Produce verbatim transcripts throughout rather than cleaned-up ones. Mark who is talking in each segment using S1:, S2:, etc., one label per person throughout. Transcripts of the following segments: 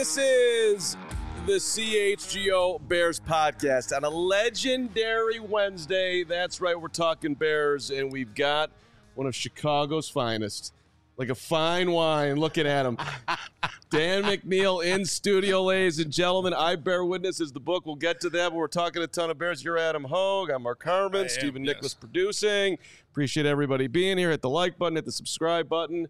S1: This is the C H G O Bears podcast on a legendary Wednesday. That's right, we're talking Bears, and we've got one of Chicago's finest, like a fine wine. Looking at him. Dan McNeil in studio, ladies and gentlemen. I Bear Witness is the book. We'll get to that, but we're talking a ton of Bears. You're Adam Hogue. I'm Mark Harmon.
S2: Am,
S1: Stephen
S2: yes.
S1: Nicholas producing. Appreciate everybody being here. Hit the like button. Hit the subscribe button.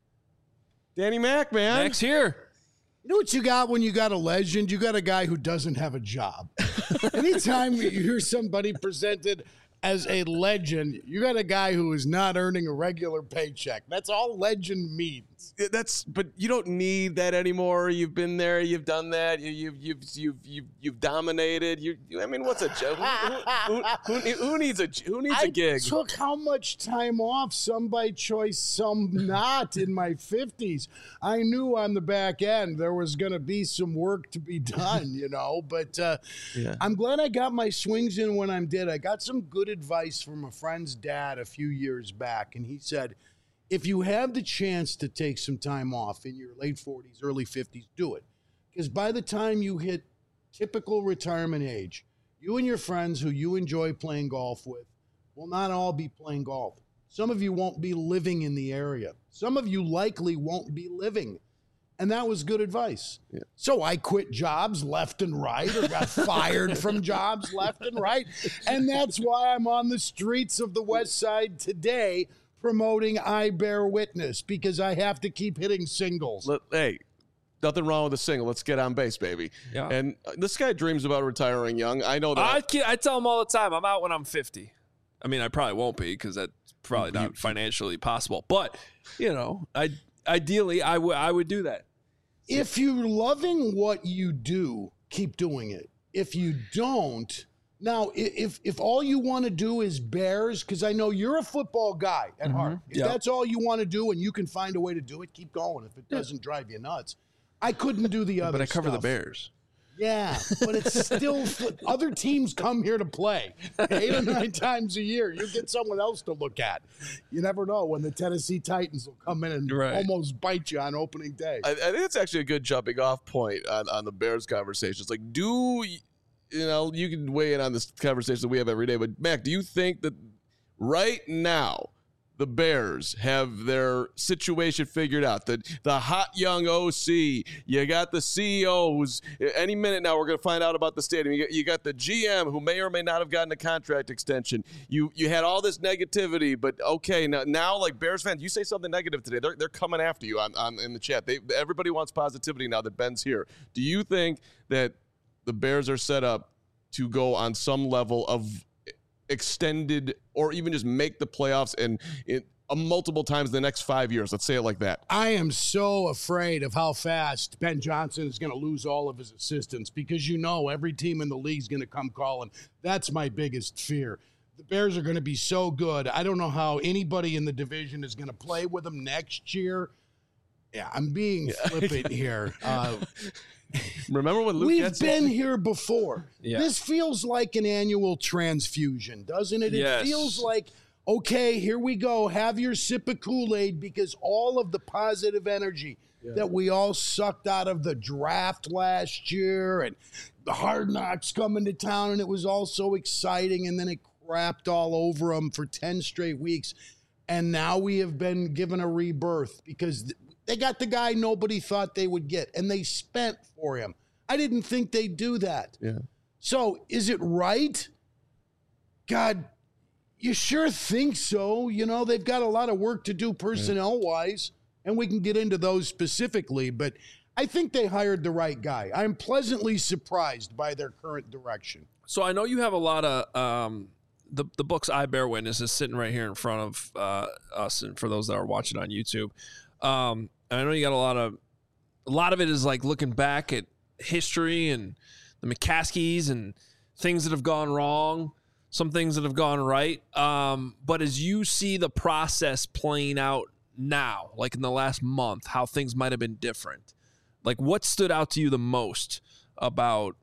S1: Danny Mac, man.
S2: Mac's here.
S3: You know what you got when you got a legend? You got a guy who doesn't have a job. Anytime you hear somebody presented as a legend, you got a guy who is not earning a regular paycheck. That's all legend means.
S1: That's, but you don't need that anymore. You've been there. You've done that. You, you've you've you've you've you've dominated. You, you I mean, what's a joke? Who, who, who, who needs a who needs
S3: I
S1: a gig?
S3: I took how much time off? Some by choice, some not. In my fifties, I knew on the back end there was going to be some work to be done. You know, but uh,
S1: Yeah.
S3: I'm glad I got my swings in when I did. I got some good advice from a friend's dad a few years back, and he said, if you have the chance to take some time off in your late forties, early fifties, do it. Because by the time you hit typical retirement age, you and your friends who you enjoy playing golf with will not all be playing golf. Some of you won't be living in the area. Some of you likely won't be living. And that was good advice.
S1: Yeah.
S3: So I quit jobs left and right, or got fired from jobs left and right. And that's why I'm on the streets of the West Side today promoting I Bear Witness, because I have to keep hitting singles.
S1: Let- hey, nothing wrong with a single. Let's get on base, baby.
S2: Yeah.
S1: And uh, this guy dreams about retiring young. I know that.
S2: I, ke- I tell him all the time, I'm out when I'm fifty. I mean, I probably won't be because that's probably not financially possible. But, you know, I ideally, I would I would do that.
S3: If you're loving what you do, keep doing it. If you don't, now, i- if if all you want to do is Bears, because I know you're a football guy at heart. If
S2: Yeah.
S3: that's all you want to do and you can find a way to do it, keep going. If it doesn't drive you nuts. I couldn't do the other
S2: But I cover
S3: stuff.
S2: the Bears.
S3: Yeah, but it's still other teams come here to play eight or nine times a year. You get someone else to look at. You never know when the Tennessee Titans will come in and
S2: Right.
S3: almost bite you on opening day.
S1: I, I think it's actually a good jumping off point on, on the Bears conversations. Like, do y- you know? You can weigh in on this conversation that we have every day. But Mac, do you think that right now the Bears have their situation figured out? The the hot young O C, you got the C E O who's any minute now we're going to find out about the stadium. You got, you got the G M who may or may not have gotten a contract extension. You you had all this negativity, but okay, now now like Bears fans, you say something negative today, they're they're coming after you on, on in the chat. They everybody wants positivity now that Ben's here. Do you think that the Bears are set up to go on some level of extended or even just make the playoffs and it uh, multiple times in the next five years? Let's say it like that.
S3: I am so afraid of how fast Ben Johnson is going to lose all of his assistants, because you know every team in the league is going to come calling. That's my biggest fear. The Bears are going to be so good. I don't know how anybody in the division is going to play with them next year. Yeah, I'm being flippant here. Uh,
S1: Remember when Luke
S3: We've
S1: Getsy-
S3: been here before.
S2: Yeah.
S3: This feels like an annual transfusion, doesn't it?
S2: Yes.
S3: It feels like, okay, here we go. Have your sip of Kool-Aid, because all of the positive energy that we all sucked out of the draft last year and the Hard Knocks coming to town, and it was all so exciting, and then it crapped all over them for ten straight weeks. And now we have been given a rebirth because th- they got the guy nobody thought they would get, and they spent for him. I didn't think they'd do that.
S1: Yeah.
S3: So is it right? God, you sure think so. You know, they've got a lot of work to do personnel-wise, and we can get into those specifically, but I think they hired the right guy. I'm pleasantly surprised by their current direction.
S2: So I know you have a lot of um, the the books I Bear Witness is sitting right here in front of uh, us, and for those that are watching on YouTube, um, and I know you got a lot of a lot of it is like looking back at history and the McCaskies and things that have gone wrong, some things that have gone right. Um, but as you see the process playing out now, like in the last month, how things might have been different, like what stood out to you the most about?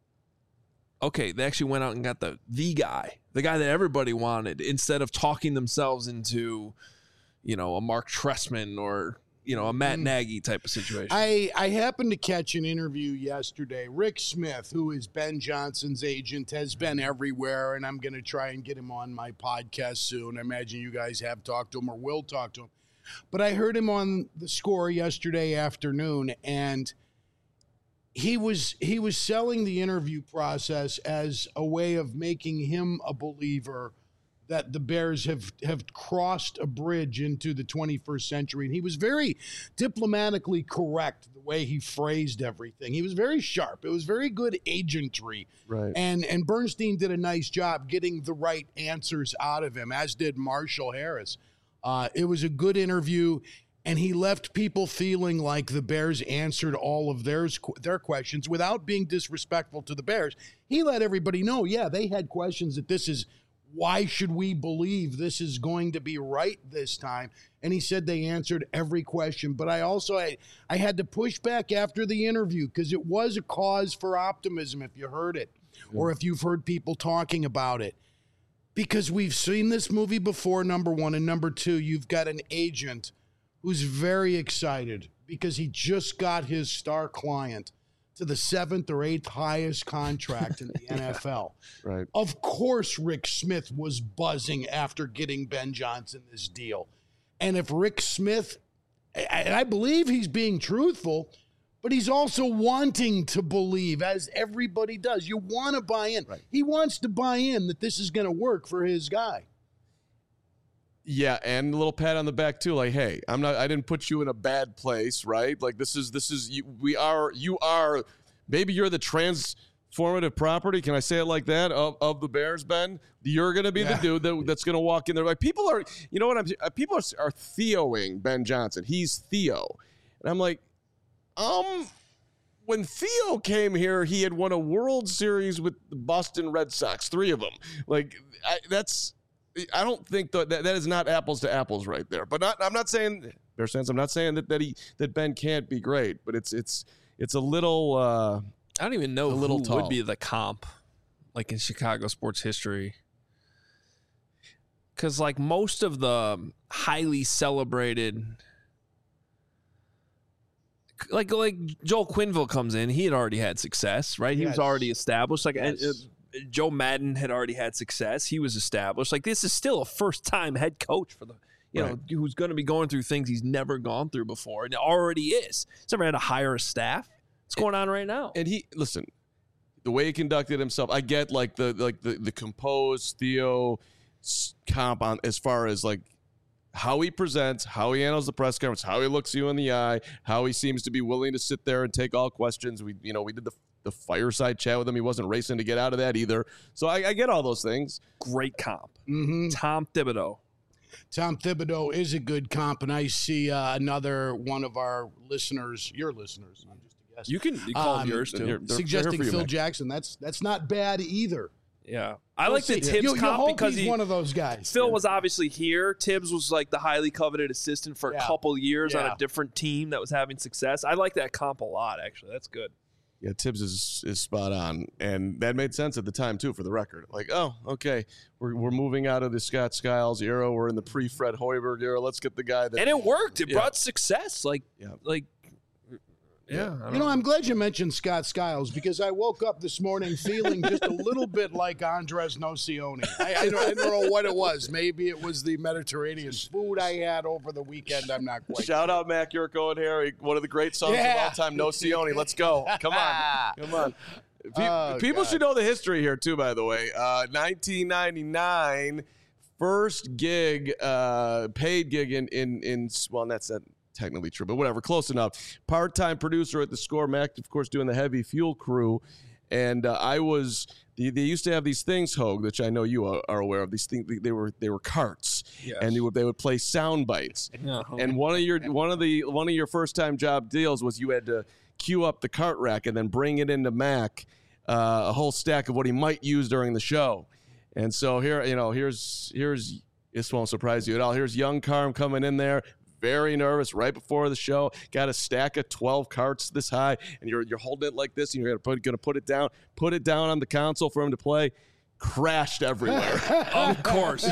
S2: Okay, they actually went out and got the the guy, the guy that everybody wanted, instead of talking themselves into, you know, a Mark Trestman or you know, a Matt Nagy type of situation.
S3: I, I happened to catch an interview yesterday. Rick Smith, who is Ben Johnson's agent, has been everywhere, and I'm going to try and get him on my podcast soon. I imagine you guys have talked to him or will talk to him. But I heard him on The Score yesterday afternoon, and he was he was selling the interview process as a way of making him a believer that the Bears have, have crossed a bridge into the twenty-first century. And he was very diplomatically correct the way he phrased everything. He was very sharp. It was very good agentry.
S1: Right.
S3: And and Bernstein did a nice job getting the right answers out of him, as did Marshall Harris. Uh, it was a good interview, and he left people feeling like the Bears answered all of theirs, their questions without being disrespectful to the Bears. He let everybody know, yeah, they had questions that this is, why should we believe this is going to be right this time? And he said they answered every question. But I also, I, I had to push back after the interview because it was a cause for optimism if you heard it or if you've heard people talking about it. Because we've seen this movie before, number one. And number two, you've got an agent who's very excited because he just got his star client to the seventh or eighth highest contract in the N F L.
S1: Right.
S3: Of course, Rick Smith was buzzing after getting Ben Johnson this deal. And if Rick Smith, and I believe he's being truthful, but he's also wanting to believe, as everybody does. You want to buy in.
S1: Right.
S3: He wants to buy in that this is going to work for his guy.
S1: Yeah, and a little pat on the back too, like, hey, I'm not, I didn't put you in a bad place, right? Like, this is, this is, you, we are, you are, maybe you're the transformative property. Can I say it like that? Of, of the Bears, Ben, you're going to be
S3: yeah.
S1: the dude that, that's going to walk in there. Like, people are, you know what I'm, people are, are Theoing Ben Johnson. He's Theo, and I'm like, um. When Theo came here, he had won a World Series with the Boston Red Sox, three of them. Like, I, that's. I don't think that that is not apples to apples right there. But not, I'm not saying, Bears fans, I'm not saying that that he that Ben can't be great. But it's it's it's a little. Uh,
S2: I don't even know
S1: a little
S2: who
S1: tall.
S2: would be the comp, like in Chicago sports history. Because like most of the highly celebrated, like like Joel Quenneville comes in, he had already had success, right? He
S3: Yes.
S2: was already established. Like
S3: Yes.
S2: uh, Joe Madden had already had success. He was established. Like this is still a first-time head coach for the, you
S1: Right.
S2: know, who's going to be going through things he's never gone through before, and already is. He's never had to hire a staff. What's going on right now?
S1: and he listen, the way he conducted himself. I get like the like the the composed Theo s- comp on as far as like how he presents, how he handles the press conference, how he looks you in the eye, how he seems to be willing to sit there and take all questions. We you know we did the the fireside chat with him. He wasn't racing to get out of that either. So I, I get all those things.
S2: Great comp.
S3: Mm-hmm.
S2: Tom Thibodeau.
S3: Tom Thibodeau is a good comp, and I see uh, another one of our listeners, your listeners, not just a guest,
S2: You can you call
S3: Um,
S2: him yours
S1: They're-
S2: too.
S1: they're- they're
S3: suggesting
S1: here for you,
S3: Phil
S1: Mac.
S3: Jackson. That's that's not bad either.
S2: Yeah, I like the
S3: We'll see.
S2: Tibbs
S3: you, you
S2: comp
S3: hope
S2: because
S3: he's
S2: he,
S3: one of those guys.
S2: Phil was obviously here. Tibbs was like the highly coveted assistant for a
S3: Yeah.
S2: couple years on
S3: Yeah.
S2: a different team that was having success. I like that comp a lot, actually. That's good.
S1: Yeah, Tibbs is is spot on, and that made sense at the time too. For the record, like, oh, okay, we're we're moving out of the Scott Skiles era. We're in the pre-Fred Hoiberg era. Let's get the guy that.
S2: And it worked. It
S1: Yeah.
S2: brought success. Like,
S1: Yeah.
S2: like, yeah. I
S3: You know, I'm glad you mentioned Scott Skiles because I woke up this morning feeling just a little bit like Andres Nocioni. I, I, don't, I don't know what it was. Maybe it was the Mediterranean food I had over the weekend. I'm not quite
S1: Shout out Mac Yurko and Harry, one of the great songs
S3: Yeah.
S1: of all time, No Sione. Let's go. Come on. Come on. Pe-
S3: Oh,
S1: people
S3: God.
S1: should know the history here, too, by the way. Uh, nineteen ninety-nine, first gig, uh, paid gig in, in, in, well, that's not technically true, but whatever, close enough. Part-time producer at The Score, Mac, of course, doing the heavy fuel crew. And uh, I was, they, they used to have these things, Hogue, which I know you are, are aware of. These things, they were they were carts,
S2: Yes.
S1: and they would they would play sound bites.
S2: Yeah.
S1: And one of your one of the one of your first time job deals was you had to queue up the cart rack and then bring it into Mac, uh, a whole stack of what he might use during the show. And so here, you know, here's here's this won't surprise you at all. Here's young Carm coming in there, very nervous right before the show. Got a stack of twelve carts this high, and you're you're holding it like this, and you're gonna put gonna put it down, put it down on the console for him to play. crashed everywhere.
S2: Of course.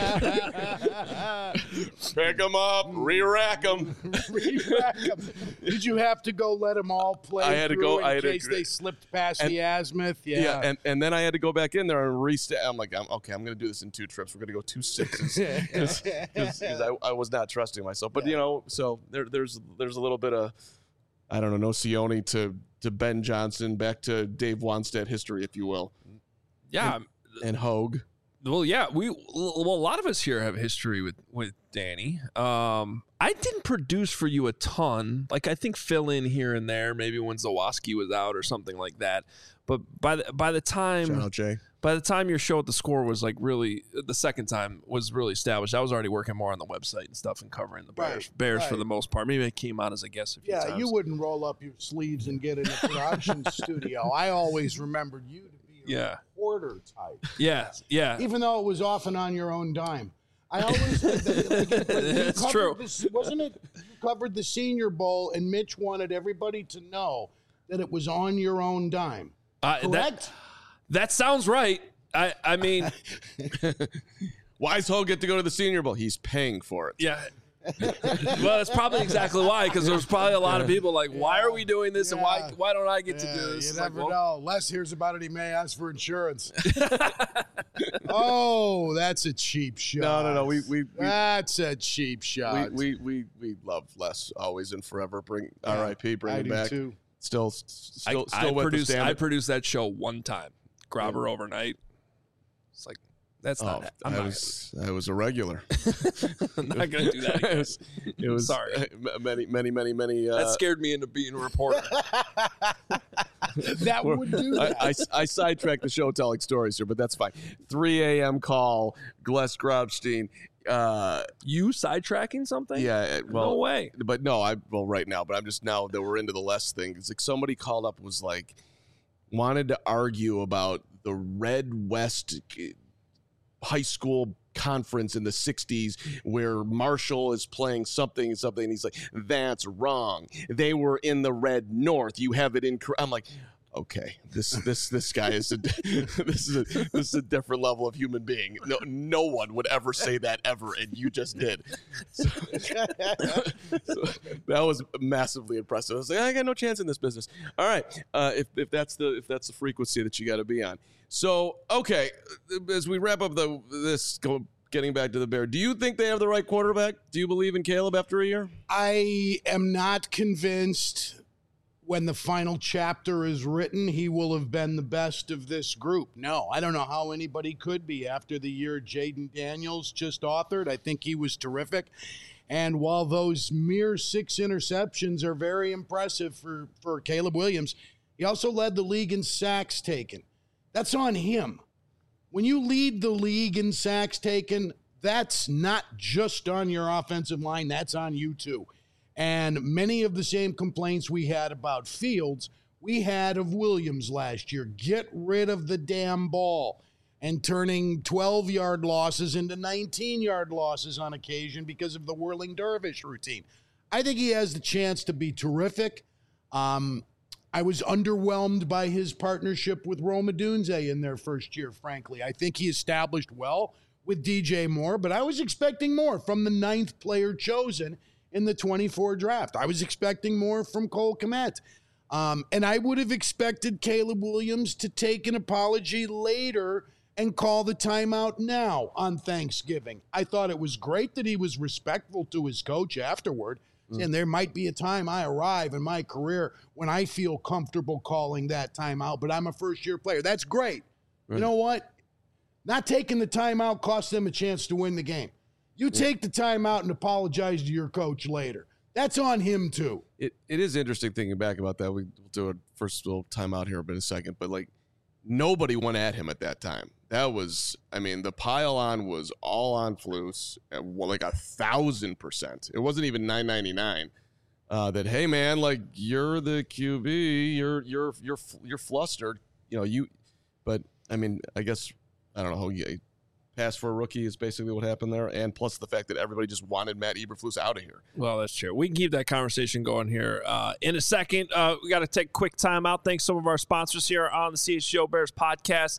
S1: Pick them up, re-rack them.
S3: Re-rack 'em. Did you have to go let them all play
S1: I had to
S3: through
S1: go-
S3: in
S1: I had to
S3: case
S1: agree.
S3: they slipped past
S1: And-
S3: the azimuth? Yeah.
S1: Yeah, and, and then I had to go back in there and reset. I'm like, I'm, okay, I'm going to do this in two trips. We're going to go two sixes because I, I was not trusting myself. But you know, so there, there's there's a little bit of, I don't know, Nocioni to to Ben Johnson, back to Dave Wanstead history, if you will,
S2: Yeah.
S1: and Hogue.
S2: Well, yeah, we well a lot of us here have history with with Danny. Um, I didn't produce for you a ton. Like I think fill in here and there, maybe when Zawoski was out or something like that. But by the by the time
S1: Shout out Jay.
S2: by the time your show at the Score was like really the second time was really established, I was already working more on the website and stuff and covering the Bears
S3: Right,
S2: Bears for
S3: right.
S2: the most part. Maybe I came on as a guest a few
S3: Yeah,
S2: times.
S3: you wouldn't roll up your sleeves and get in a production studio. I always remembered you to be a
S2: Yeah.
S3: reporter type,
S2: Yeah, yeah.
S3: even though it was often on your own dime. I always like that, like, like, you
S2: That's
S3: covered
S2: true.
S3: This, wasn't it? You covered the Senior Bowl, and Mitch wanted everybody to know that it was on your own dime.
S2: Uh,
S3: Correct?
S2: that that sounds right. I I mean,
S1: Why does Hogue get to go to the Senior Bowl? He's paying for it.
S2: yeah. Well, that's probably exactly why, because there's probably a lot of people like, why are we doing this, and why
S3: Yeah.
S2: why don't I get to
S3: Yeah,
S2: do this?
S3: you
S2: It's like,
S3: never
S2: well,
S3: know. Les hears about it, he may ask for insurance. Oh, that's a cheap shot.
S1: No, no, no. We we we,
S3: That's a cheap shot.
S1: we, we, we, we love Les always and forever. Bring
S3: Yeah,
S1: R I P. Bring
S3: I
S1: him
S3: do
S1: back.
S3: too.
S1: Still, still,
S2: I,
S1: still
S2: I
S1: with
S2: produced
S1: the
S2: I
S1: stand.
S2: produced that show one time. Grab her overnight. It's like that's
S1: Oh,
S2: not. I'm
S1: I
S2: not,
S1: was I was a regular.
S2: I'm not gonna do that
S1: it
S2: again.
S1: was, it was
S2: Sorry.
S1: uh, many, many, many, many. Uh,
S2: That scared me into being a reporter.
S3: That would do that.
S1: I, I, I sidetracked the show telling stories here, but that's fine. three a.m. call, Gles Grobstein. Uh,
S2: You sidetracking something?
S1: yeah, well,
S2: no way.
S1: but no, I well right now, but I'm just now that we're into the Les thing. It's like somebody called up was like wanted to argue about the Red West high school conference in the sixties where Marshall is playing something and something and he's like, that's wrong, they were in the Red North, you have it in. I'm like, okay, this this this guy is a this is a this is a different level of human being. No no one would ever say that ever, and you just did. So, so that was massively impressive. I was like, I got no chance in this business. All right, uh, if if that's the if that's the frequency that you got to be on. So okay, as we wrap up the this go, getting back to the Bear, do you think they have the right quarterback? Do you believe in Caleb after a year?
S3: I am not convinced when the final chapter is written, he will have been the best of this group. No, I don't know how anybody could be after the year Jaden Daniels just authored. I think he was terrific. And while those mere six interceptions are very impressive for, for Caleb Williams, he also led the league in sacks taken. That's on him. When you lead the league in sacks taken, that's not just on your offensive line, that's on you too. And many of the same complaints we had about Fields, we had of Williams last year. Get rid of the damn ball. And turning twelve-yard losses into nineteen-yard losses on occasion because of the whirling dervish routine. I think he has the chance to be terrific. Um, I was underwhelmed by his partnership with Rome Odunze in their first year, frankly. I think he established well with D J Moore, but I was expecting more from the ninth player chosen in the twenty-four draft. I was expecting more from Cole Kmet. Um, and I would have expected Caleb Williams to take an apology later and call the timeout now on Thanksgiving. I thought it was great that he was respectful to his coach afterward. Mm. And there might be a time I arrive in my career when I feel comfortable calling that timeout, but I'm a first-year player. That's great. Right. You know what? Not taking the timeout cost them a chance to win the game. You take the time out and apologize to your coach later. That's on him, too.
S1: It It is interesting thinking back about that. We'll do a first little time out here in a second. But, like, nobody went at him at that time. That was, I mean, the pile-on was all on Flus, like a thousand percent. It wasn't even nine ninety-nine. Uh, that, hey, man, like, you're the Q B. You're, you're, you're, you're flustered. You know, you, but, I mean, I guess, I don't know how you pass for a rookie is basically what happened there, and plus the fact that everybody just wanted Matt Eberflus out of here.
S2: Well, that's true. We can keep that conversation going here uh, in a second. Uh, we got to take a quick time out. Thanks to some of our sponsors here on the C H G O Bears podcast.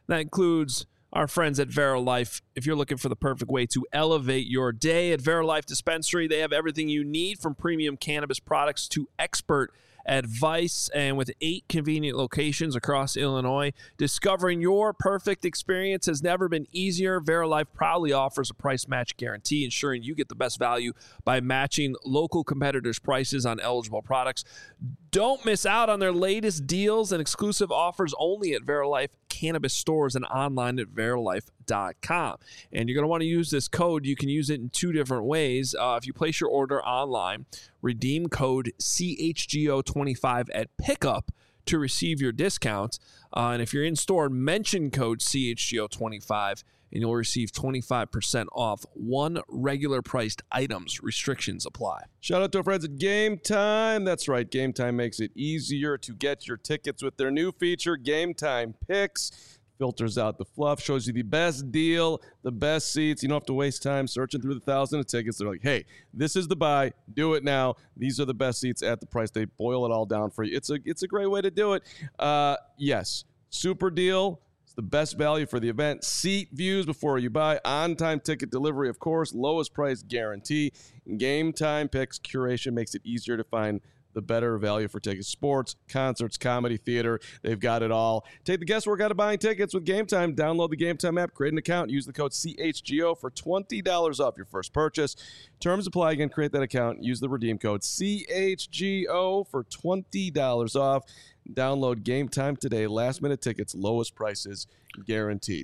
S2: That includes our friends at VeriLife. If you're looking for the perfect way to elevate your day, at VeriLife Dispensary, they have everything you need from premium cannabis products to expert advice. And with eight convenient locations across Illinois, discovering your perfect experience has never been easier. VeriLife proudly offers a price match guarantee, ensuring you get the best value by matching local competitors' prices on eligible products. Don't miss out on their latest deals and exclusive offers only at VeriLife cannabis stores and online at verilife dot com. And you're going to want to use this code. You can use it in two different ways. Uh, if you place your order online, redeem code C H G O twenty-five at pickup to receive your discount. Uh, and if you're in store, mention code C H G O twenty-five and you'll receive twenty-five percent off one regular priced items. Restrictions apply.
S1: Shout out to our friends at Game Time. That's right. Game Time makes it easier to get your tickets with their new feature, Game Time Picks. Filters out the fluff, shows you the best deal, the best seats. You don't have to waste time searching through the thousand of tickets. They're like, hey, this is the buy. Do it now. These are the best seats at the price. They boil it all down for you. It's a it's a great way to do it. Uh, yes, super deal. It's the best value for the event. Seat views before you buy. On-time ticket delivery, of course. Lowest price guarantee. Game Time Picks curation makes it easier to find the better value for tickets. Sports, concerts, comedy, theater, they've got it all. Take the guesswork out of buying tickets with Game Time. Download the Game Time app, create an account, use the code C H G O for twenty dollars off your first purchase. Terms apply. Again, create that account, use the redeem code C H G O for twenty dollars off. Download Game Time today. Last minute tickets, lowest prices guaranteed.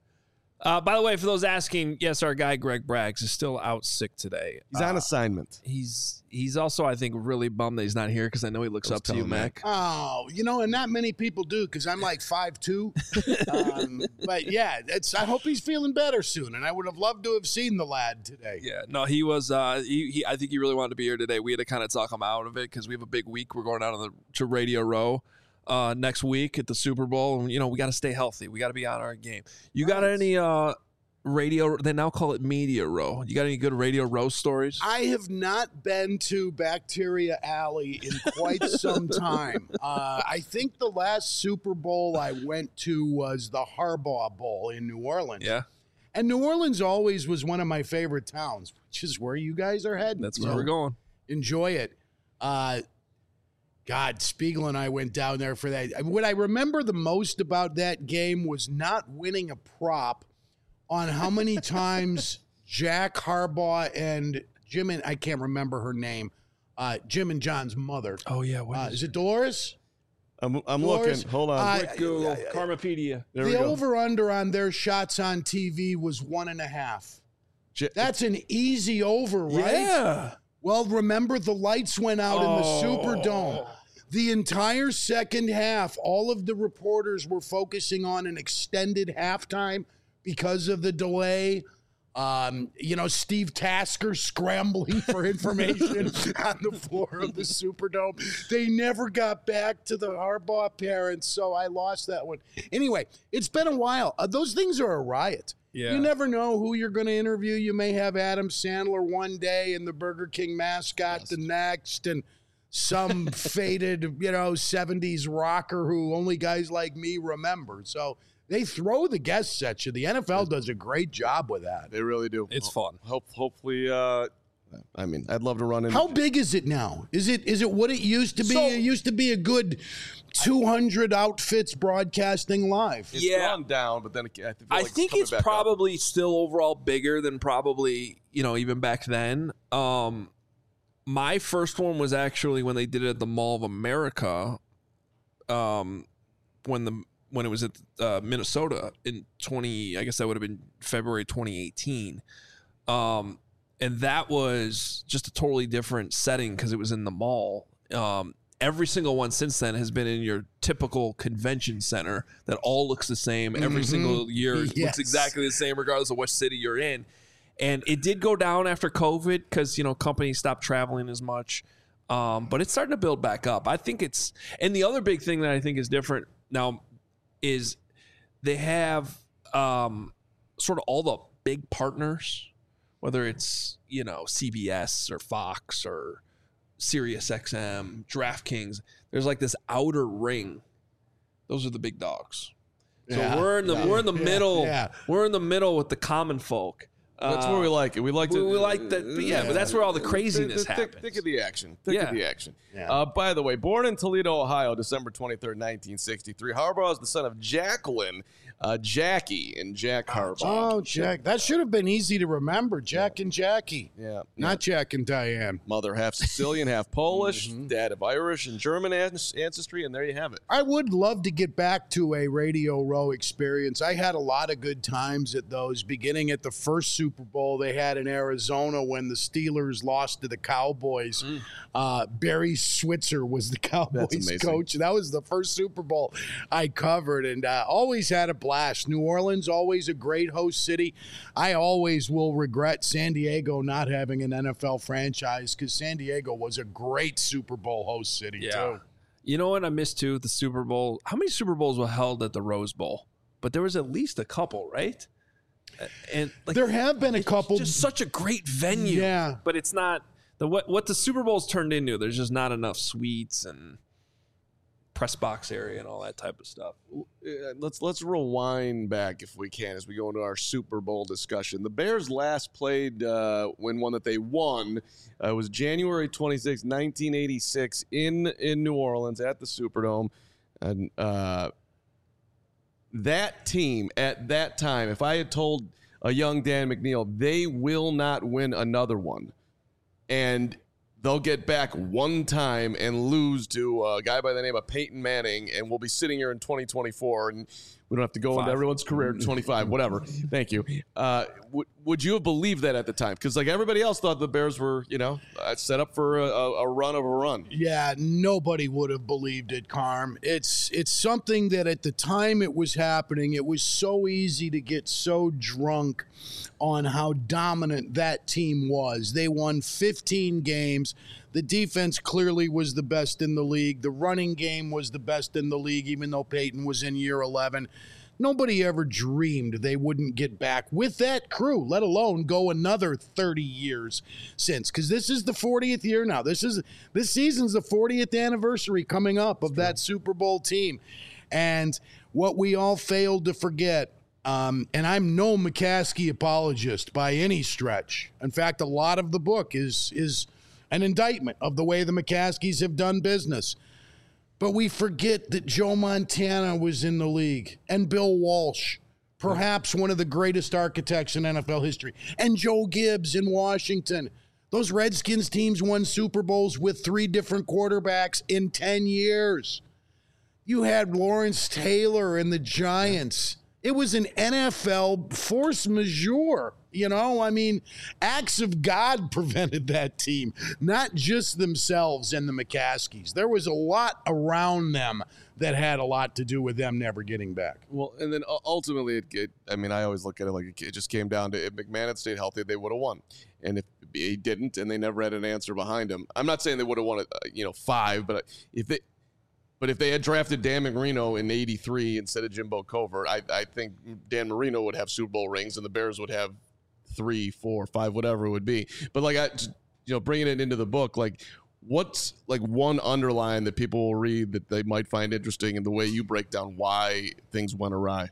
S2: Uh, by the way, for those asking, yes, our guy Greg Braggs is still out sick today.
S1: He's on
S2: uh,
S1: assignment.
S2: He's he's also, I think, really bummed that he's not here because I know he looks up to you, Mac.
S3: Oh, you know, and not many people do because I'm like five two. um, but yeah, it's. I hope he's feeling better soon, and I would have loved to have seen the lad today.
S2: Yeah, no, he was. Uh, he, he, I think he really wanted to be here today. We had to kind of talk him out of it because we have a big week. We're going out on the to Radio Row uh, next week at the Super Bowl, and you know we got to stay healthy. We got to be on our game. You got
S3: Nice.
S2: any? Uh, Radio, they now call it Media Row. You got any good Radio Row stories?
S3: I have not been to Bacteria Alley in quite some time. Uh, I think the last Super Bowl I went to was the Harbaugh Bowl in New Orleans.
S2: Yeah,
S3: And New Orleans always was one of my favorite towns, which is where you guys are heading.
S2: that's where
S3: So
S2: we're going.
S3: enjoy it. Uh, God, Spiegel and I went down there for that. What I remember the most about that game was not winning a prop on how many times Jack Harbaugh and Jim and I can't remember her name, uh, Jim and John's mother.
S2: Oh yeah, what
S3: Uh,
S2: is
S3: is it Dolores?
S1: I'm, I'm
S3: Dolores,
S1: looking. Hold on.
S3: uh,
S2: Quick Google, Karmapedia.
S1: there we
S3: The
S1: go.
S3: over-under on their shots on T V was one and a half.
S1: J-
S3: That's an easy over, right?
S2: Yeah.
S3: Well, remember the lights went out in the Superdome. The entire second half, all of the reporters were focusing on an extended halftime because of the delay. Um, you know, Steve Tasker scrambling for information on the floor of the Superdome. They never got back to the Harbaugh parents, so I lost that one. Anyway, it's been a while. Uh, those things are a riot.
S2: Yeah.
S3: You never know who you're going to interview. You may have Adam Sandler one day and the Burger King mascot the next, and some faded, you know, seventies rocker who only guys like me remember. So they throw the guests at you. The N F L does a great job with that.
S1: They really do.
S2: It's fun.
S1: Hope, hopefully, uh, I mean, I'd love to run in.
S3: How big is it now? Is it is it what it used to be?
S2: So-
S3: it used to be a good two hundred outfits broadcasting live.
S1: It's
S2: Yeah.
S1: gone down, but then it, I, feel
S2: I
S1: like
S2: think
S1: coming
S2: it's
S1: back up.
S2: probably still overall bigger than probably, you know, even back then. Um, my first one was actually when they did it at the Mall of America, um, when the when it was at uh, Minnesota in twenty, I guess that would have been February twenty eighteen, um, and that was just a totally different setting because it was in the mall. Um, every single one since then has been in your typical convention center that all looks the same every
S3: Mhm.
S2: single year. It
S3: Yes.
S2: looks exactly the same regardless of what city you're in. And it did go down after COVID because, you know, companies stopped traveling as much. Um, but it's starting to build back up. I think it's, and the other big thing that I think is different now is they have um, sort of all the big partners, whether it's, you know, C B S or Fox or Sirius X M, DraftKings. There's like this outer ring. Those are the big dogs. So
S3: Yeah.
S2: we're in the
S3: Yeah.
S2: we're in the
S3: Yeah.
S2: middle.
S3: Yeah.
S2: We're in the middle with the common folk.
S1: That's
S2: Uh,
S1: where we like it. We like
S2: we,
S1: to.
S2: we like that. But yeah, but that's where all the craziness
S1: Think- think-
S2: happens.
S1: Think of the action. Think
S2: Yeah.
S1: of the action.
S3: Yeah.
S1: Uh, by the way, born in Toledo, Ohio, December twenty-third, nineteen sixty-three, Harbaugh is the son of Jacqueline, uh, Jackie, and Jack Harbaugh.
S3: Oh, Jack. That should have been easy to remember. Jack and Jackie.
S1: Yeah.
S3: Not Jack and Diane.
S1: Mother half Sicilian, half Polish,
S2: Mm-hmm.
S1: dad of Irish and German an- ancestry, and there you have it.
S3: I would love to get back to a Radio Row experience. I had a lot of good times at those, beginning at the first Super Bowl they had in Arizona when the Steelers lost to the Cowboys.
S2: Mm.
S3: Uh, Barry Switzer was the Cowboys
S1: amazing.
S3: coach. That was the first Super Bowl I covered, and uh, always had a blast. New Orleans, always a great host city. I always will regret San Diego not having an N F L franchise because San Diego was a great Super Bowl host city,
S2: Yeah.
S3: too.
S2: You know what I missed too? The Super Bowl. How many Super Bowls were held at the Rose Bowl? But there was at least a couple, right? And like
S3: There have been a
S2: it's
S3: couple.
S2: just such a great venue.
S3: Yeah.
S2: But it's not the what what the Super Bowl's turned into. There's just not enough suites and press box area and all that type of stuff.
S1: Uh, let's let's rewind back if we can as we go into our Super Bowl discussion. The Bears last played uh, when one that they won uh, was January twenty-sixth, nineteen eighty-six in in New Orleans at the Superdome, and uh, that team at that time, if I had told a young Dan McNeil they will not win another one, and they'll get back one time and lose to a guy by the name of Peyton Manning, and we'll be sitting here in twenty twenty-four, and we don't have to go into
S2: Five.
S1: everyone's career twenty-five, whatever. Thank you. Uh, w- would you have believed that at the time? Because like everybody else thought the Bears were, you know, uh, set up for a, a, a run of a run.
S3: Yeah, nobody would have believed it, Carm. It's it's something that at the time it was happening, it was so easy to get so drunk on how dominant that team was. They won fifteen games. The defense clearly was the best in the league. The running game was the best in the league, even though Peyton was in year eleven. Nobody ever dreamed they wouldn't get back with that crew, let alone go another thirty years since. Because this is the fortieth year now. This is this season's the fortieth anniversary coming up of that Super Bowl team. And what we all failed to forget, um, and I'm no McCaskey apologist by any stretch. In fact, a lot of the book is is an indictment of the way the McCaskeys have done business. But we forget that Joe Montana was in the league, and Bill Walsh, perhaps one of the greatest architects in N F L history, and Joe Gibbs in Washington. Those Redskins teams won Super Bowls with three different quarterbacks in ten years. You had Lawrence Taylor and the Giants. It was an N F L force majeure. You know, I mean, acts of God prevented that team, not just themselves and the McCaskeys. There was a lot around them that had a lot to do with them never getting back.
S1: Well, and then u- ultimately, it, it, I mean, I always look at it like it just came down to if McMahon had stayed healthy, they would have won. And if he didn't, and they never had an answer behind him, I'm not saying they would have won, uh, you know, five, but if they, but if they had drafted Dan Marino in eighty-three instead of Jimbo Covert, I, I think Dan Marino would have Super Bowl rings, and the Bears would have three, four, five, whatever it would be. But like I, you know, bringing it into the book, like. What's like one underline that people will read that they might find interesting in the way you break down why things went awry?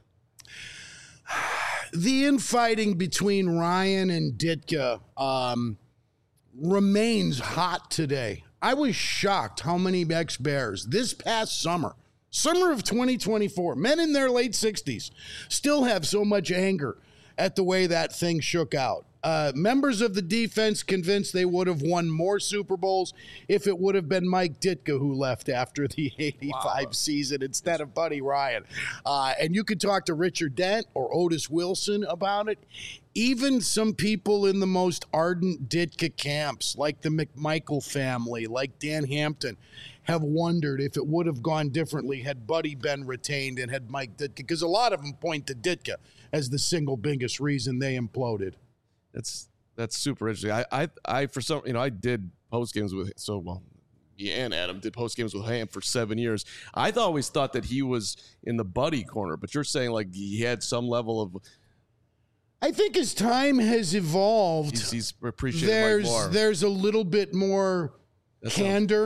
S3: The infighting between Ryan and Ditka um, remains hot today. I was shocked how many ex-Bears this past summer, summer of twenty twenty-four, men in their late sixties, still have so much anger at the way that thing shook out. Uh, members of the defense convinced they would have won more Super Bowls if it would have been Mike Ditka who left after the eighty-five wow. season instead of Buddy Ryan. Uh, and you could talk to Richard Dent or Otis Wilson about it. Even some people in the most ardent Ditka camps, like the McMichael family, like Dan Hampton, have wondered if it would have gone differently had Buddy been retained and had Mike Ditka, because a lot of them point to Ditka as the single biggest reason they imploded.
S1: That's that's super interesting. I I, I for some you know I did post games with so well, yeah, and Adam did post games with Ham for seven years. I th- always thought that he was in the Buddy corner, but you're saying like he had some level of.
S3: I think as time has evolved,
S1: he's, he's appreciated
S3: there's
S1: Mike more.
S3: there's a little bit more
S1: That
S3: candor.
S1: sounds,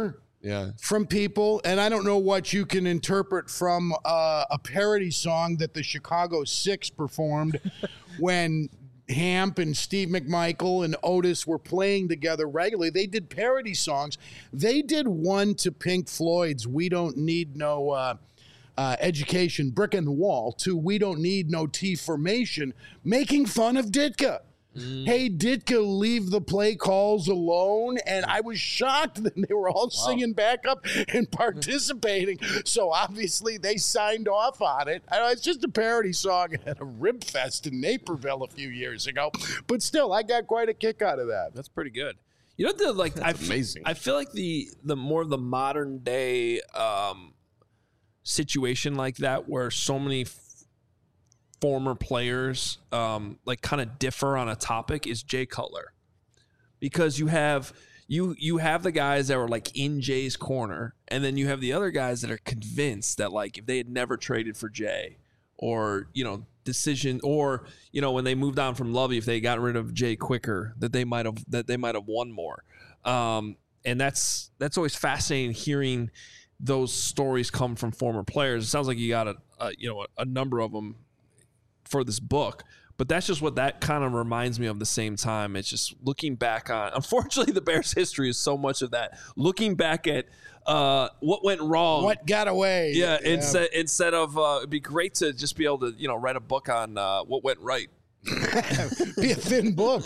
S1: Yeah.
S3: from people, and I don't know what you can interpret from uh, a parody song that the Chicago Six performed when Hamp and Steve McMichael and Otis were playing together regularly. They did parody songs. They did one to Pink Floyd's "We Don't Need No uh, uh, Education," Brick in the Wall, to "We Don't Need No T Formation," making fun of Ditka. Mm. Hey, Ditka, leave the play calls alone. And I was shocked that they were all wow. singing back up and participating. So obviously they signed off on it. I know, it's just a parody song at a Rib Fest in Naperville a few years ago. But still, I got quite a kick out of that.
S2: That's pretty good. You know, the, like,
S1: That's
S2: I,
S1: amazing.
S2: I feel like the the more the modern day um, situation like that, where so many f- former players um, like kind of differ on a topic, is Jay Cutler, because you have you you have the guys that were like in Jay's corner, and then you have the other guys that are convinced that like if they had never traded for Jay, or you know decision, or you know when they moved on from Lovey, if they got rid of Jay quicker, that they might have that they might have won more. Um, and that's that's always fascinating hearing those stories come from former players. It sounds like you got a, a you know a, a number of them for this book, but that's just what that kind of reminds me of. The same time, it's just looking back on, unfortunately the Bears history is so much of that, looking back at uh what went wrong,
S3: what got away.
S2: Yeah,
S3: yeah.
S2: instead instead of uh it'd be great to just be able to you know write a book on uh what went right.
S3: Be a thin book.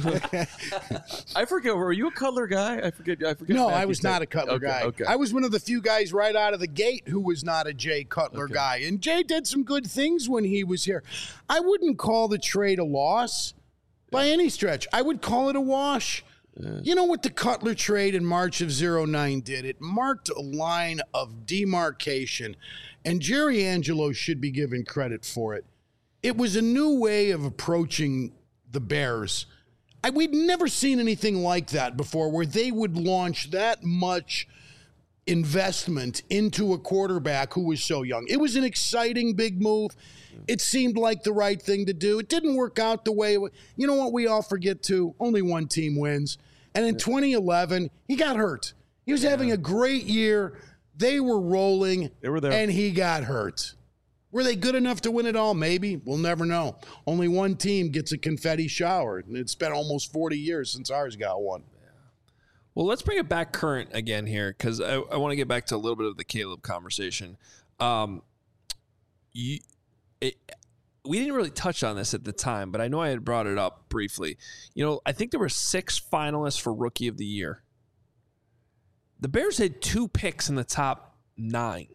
S1: I forget. Were you a Cutler guy? I forget. I forget.
S3: No,
S1: Matthew
S3: I was
S1: said.
S3: not a Cutler
S1: okay,
S3: guy.
S1: Okay.
S3: I was one of the few guys right out of the gate who was not a Jay Cutler
S1: Okay.
S3: guy. And Jay did some good things when he was here. I wouldn't call the trade a loss by any stretch. I would call it a wash. Yeah. You know what the Cutler trade in March of oh nine did? It marked a line of demarcation, and Jerry Angelo should be given credit for it. It was a new way of approaching the Bears. I, we'd never seen anything like that before, where they would launch that much investment into a quarterback who was so young. It was an exciting big move. It seemed like the right thing to do. It didn't work out the way it was. You know what we all forget too? Only one team wins. And in twenty eleven, he got hurt. He was yeah. having a great year. They were rolling.
S1: They were there.
S3: And he got hurt. Were they good enough to win it all? Maybe. We'll never know. Only one team gets a confetti shower. And it's been almost forty years since ours got one.
S2: Yeah. Well, let's bring it back current again here, because I, I want to get back to a little bit of the Caleb conversation. Um, you, it, we didn't really touch on this at the time, but I know I had brought it up briefly. You know, I think there were six finalists for Rookie of the Year. The Bears had two picks in the top nine.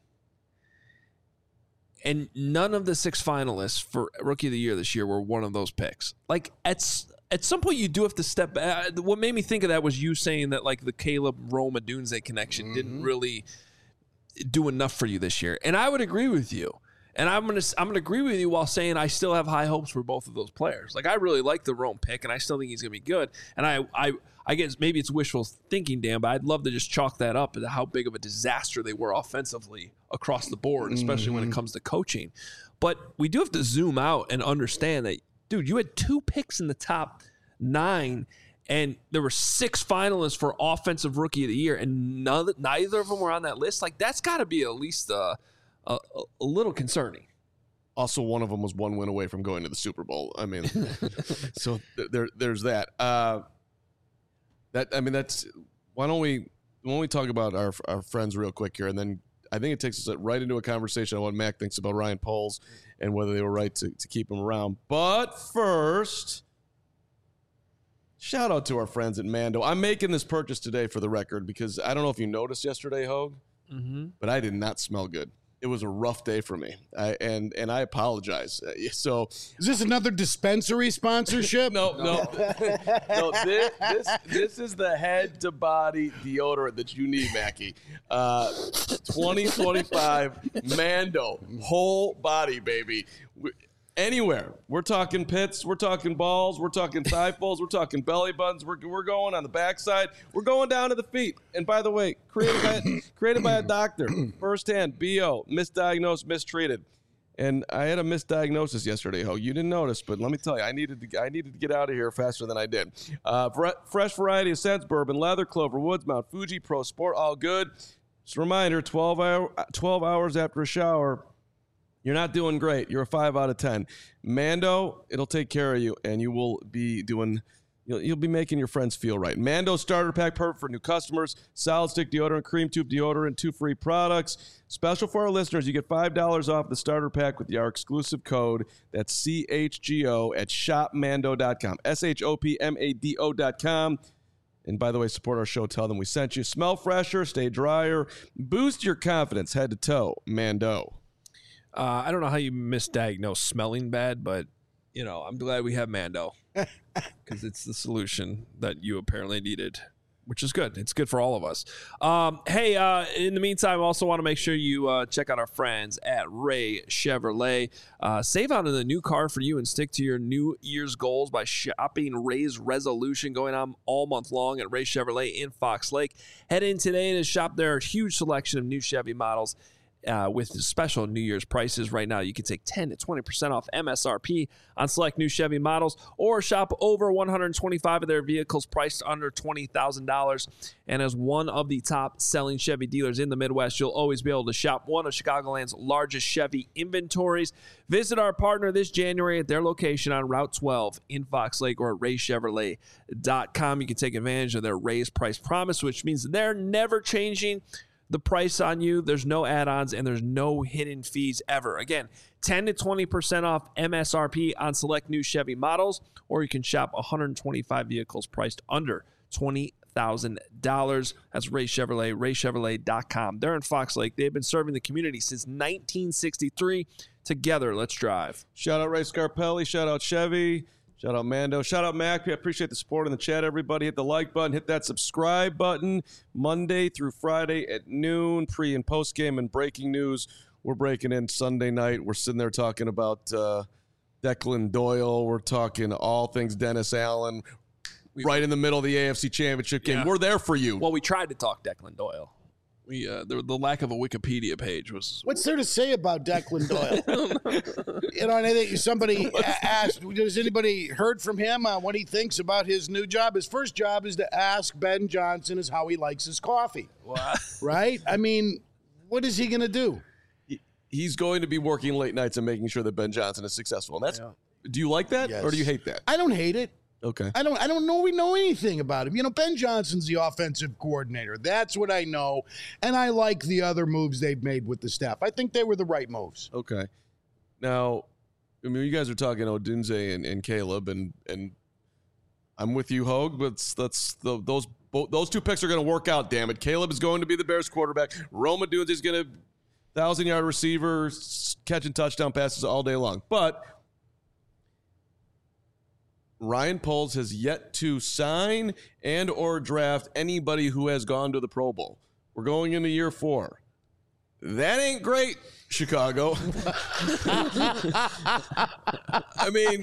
S2: And none of the six finalists for Rookie of the Year this year were one of those picks. Like, at, at some point, you do have to step back. What made me think of that was you saying that, like, the Caleb Roma Dunze connection mm-hmm. didn't really do enough for you this year. And I would agree with you. And I'm gonna I'm gonna agree with you while saying I still have high hopes for both of those players. Like, I really like the Rome pick, and I still think he's gonna be good. And I I I guess maybe it's wishful thinking, Dan, but I'd love to just chalk that up to how big of a disaster they were offensively across the board, especially mm-hmm. when it comes to coaching. But we do have to zoom out and understand that, dude, you had two picks in the top nine, and there were six finalists for Offensive Rookie of the Year, and none, neither of them were on that list. Like, that's got to be at least a, a, a little concerning.
S1: Also, one of them was one win away from going to the Super Bowl. I mean, so th- there, there's that. Uh, that I mean, that's why don't we why don't we talk about our our friends real quick here, and then I think it takes us right into a conversation on what Mac thinks about Ryan Poles and whether they were right to, to keep him around. But first, shout out to our friends at Mando. I'm making this purchase today for the record because I don't know if you noticed yesterday, Hogue, mm-hmm. but I did not smell good. It was a rough day for me, I, and and I apologize. Uh, so,
S3: is this another dispensary sponsorship?
S1: no, no, no. This, this this is the head to body deodorant that you need, Mackie. Uh, twenty twenty-five Mando whole body, baby. We, Anywhere. We're talking pits. We're talking balls. We're talking thigh folds. We're talking belly buttons. We're, we're going on the backside. We're going down to the feet. And by the way, created by, created by a doctor. Firsthand, B O, misdiagnosed, mistreated. And I had a misdiagnosis yesterday, Ho. You didn't notice, but let me tell you, I needed to I needed to get out of here faster than I did. Uh, fresh variety of scents, bourbon, leather, clover, woods, Mount Fuji, Pro Sport, all good. Just a reminder, twelve, hour, twelve hours after a shower, you're not doing great. You're a five out of ten. Mando, it'll take care of you, and you will be doing... You'll, you'll be making your friends feel right. Mando Starter Pack, perfect for new customers. Solid Stick Deodorant, Cream Tube Deodorant, two free products. Special for our listeners, you get five dollars off the starter pack with our exclusive code. That's C H G O at shop mando dot com. S H O P M A D O dot com. And by the way, support our show. Tell them we sent you. Smell fresher, stay drier. Boost your confidence head to toe. Mando.
S2: Uh, I don't know how you misdiagnose smelling bad, but, you know, I'm glad we have Mando. Because it's the solution that you apparently needed, which is good. It's good for all of us. Um, hey, uh, in the meantime, I also want to make sure you uh, check out our friends at Ray Chevrolet. Uh, save on the new car for you and stick to your New Year's goals by shopping Ray's Resolution, going on all month long at Ray Chevrolet in Fox Lake. Head in today and shop their huge selection of new Chevy models. Uh, with special New Year's prices right now, you can take ten to twenty percent off M S R P on select new Chevy models, or shop over one hundred twenty-five of their vehicles priced under twenty thousand dollars. And as one of the top selling Chevy dealers in the Midwest, you'll always be able to shop one of Chicagoland's largest Chevy inventories. Visit our partner this January at their location on Route twelve in Fox Lake or at ray chevrolet dot com. You can take advantage of their raised price promise, which means they're never changing the price on you. There's no add-ons and there's no hidden fees ever. Again, ten to twenty percent off M S R P on select new Chevy models, or you can shop one hundred twenty-five vehicles priced under twenty thousand dollars. That's Ray Chevrolet, ray chevrolet dot com. They're in Fox Lake. They've been serving the community since nineteen sixty-three. Together, let's drive.
S1: Shout out Ray Scarpelli. Shout out Chevy. Shout out Mando. Shout out Mac. I appreciate the support in the chat, everybody. Hit the like button. Hit that subscribe button. Monday through Friday at noon, pre- and post-game and breaking news. We're breaking in Sunday night. We're sitting there talking about uh, Declan Doyle. We're talking all things Dennis Allen. We, right in the middle of the A F C Championship game.
S2: Yeah.
S1: We're there for you.
S2: Well, we tried to talk Declan Doyle. We uh, the, the lack of a Wikipedia page was.
S3: What's there to say about Declan Doyle? You know, and I think somebody a- asked, has anybody heard from him on what he thinks about his new job? His first job is to ask Ben Johnson is how he likes his coffee.
S2: What?
S3: Right? I mean, what is he going to do?
S1: He's going to be working late nights and making sure that Ben Johnson is successful. And that's. Yeah. Do you like that,
S3: Yes.
S1: or do you hate that?
S3: I don't hate it.
S1: Okay.
S3: I don't I don't know we know anything about him. You know, Ben Johnson's the offensive coordinator. That's what I know. And I like the other moves they've made with the staff. I think they were the right moves.
S1: Okay. Now, I mean, you guys are talking Odunze and, and Caleb, and and I'm with you, Hogue, but that's the, those both, those two picks are going to work out, damn it. Caleb is going to be the Bears quarterback. Rome Odunze is going to thousand-yard receiver, catching touchdown passes all day long. But Ryan Poles has yet to sign and or draft anybody who has gone to the Pro Bowl. We're going into year four. That ain't great, Chicago. I mean,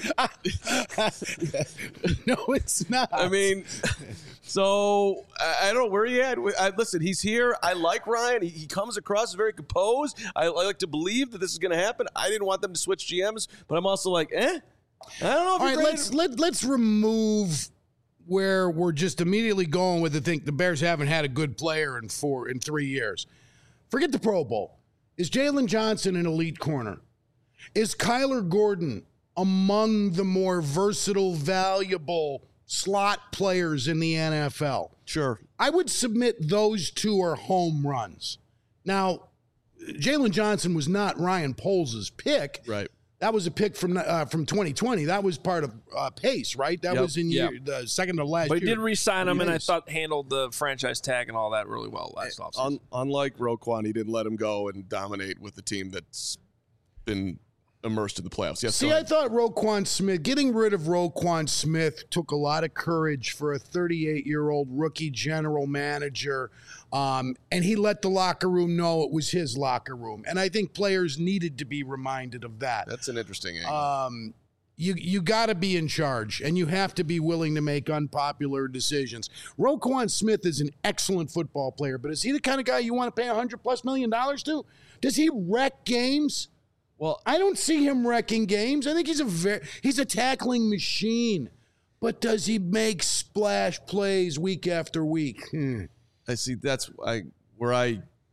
S3: no, it's not.
S1: I mean, so I, I don't know where he at. I, listen, he's here. I like Ryan. He, he comes across as very composed. I, I like to believe that this is going to happen. I didn't want them to switch G Ms, but I'm also like, eh. I don't know. If
S3: All right, let's let, let's remove where we're just immediately going with the thing. The Bears haven't had a good player in four in three years. Forget the Pro Bowl. Is Jalen Johnson an elite corner? Is Kyler Gordon among the more versatile, valuable slot players in the N F L?
S1: Sure.
S3: I would submit those two are home runs. Now, Jalen Johnson was not Ryan Poles' pick.
S1: Right.
S3: That was a pick from uh, from twenty twenty. That was part of uh, Pace, right? That
S1: Yep.
S3: was in
S2: Yep.
S3: year, the second to last
S2: But he
S3: year.
S2: did re-sign him, and I
S3: Pace.
S2: thought handled the franchise tag and all that really well last offseason.
S1: Un- unlike Roquan, he didn't let him go and dominate with the team that's been immersed in the playoffs. Yes.
S3: See, I thought Roquan Smith, getting rid of Roquan Smith took a lot of courage for a thirty-eight-year-old rookie general manager, um, and he let the locker room know it was his locker room. And I think players needed to be reminded of that.
S1: That's an interesting angle.
S3: Um, you you got to be in charge, and you have to be willing to make unpopular decisions. Roquan Smith is an excellent football player, but is he the kind of guy you want to pay one hundred plus million dollars to? Does he wreck games?
S1: Well,
S3: I don't see him wrecking games. I think he's a very he's a tackling machine. But does he make splash plays week after week? Hmm.
S1: I see. That's I where I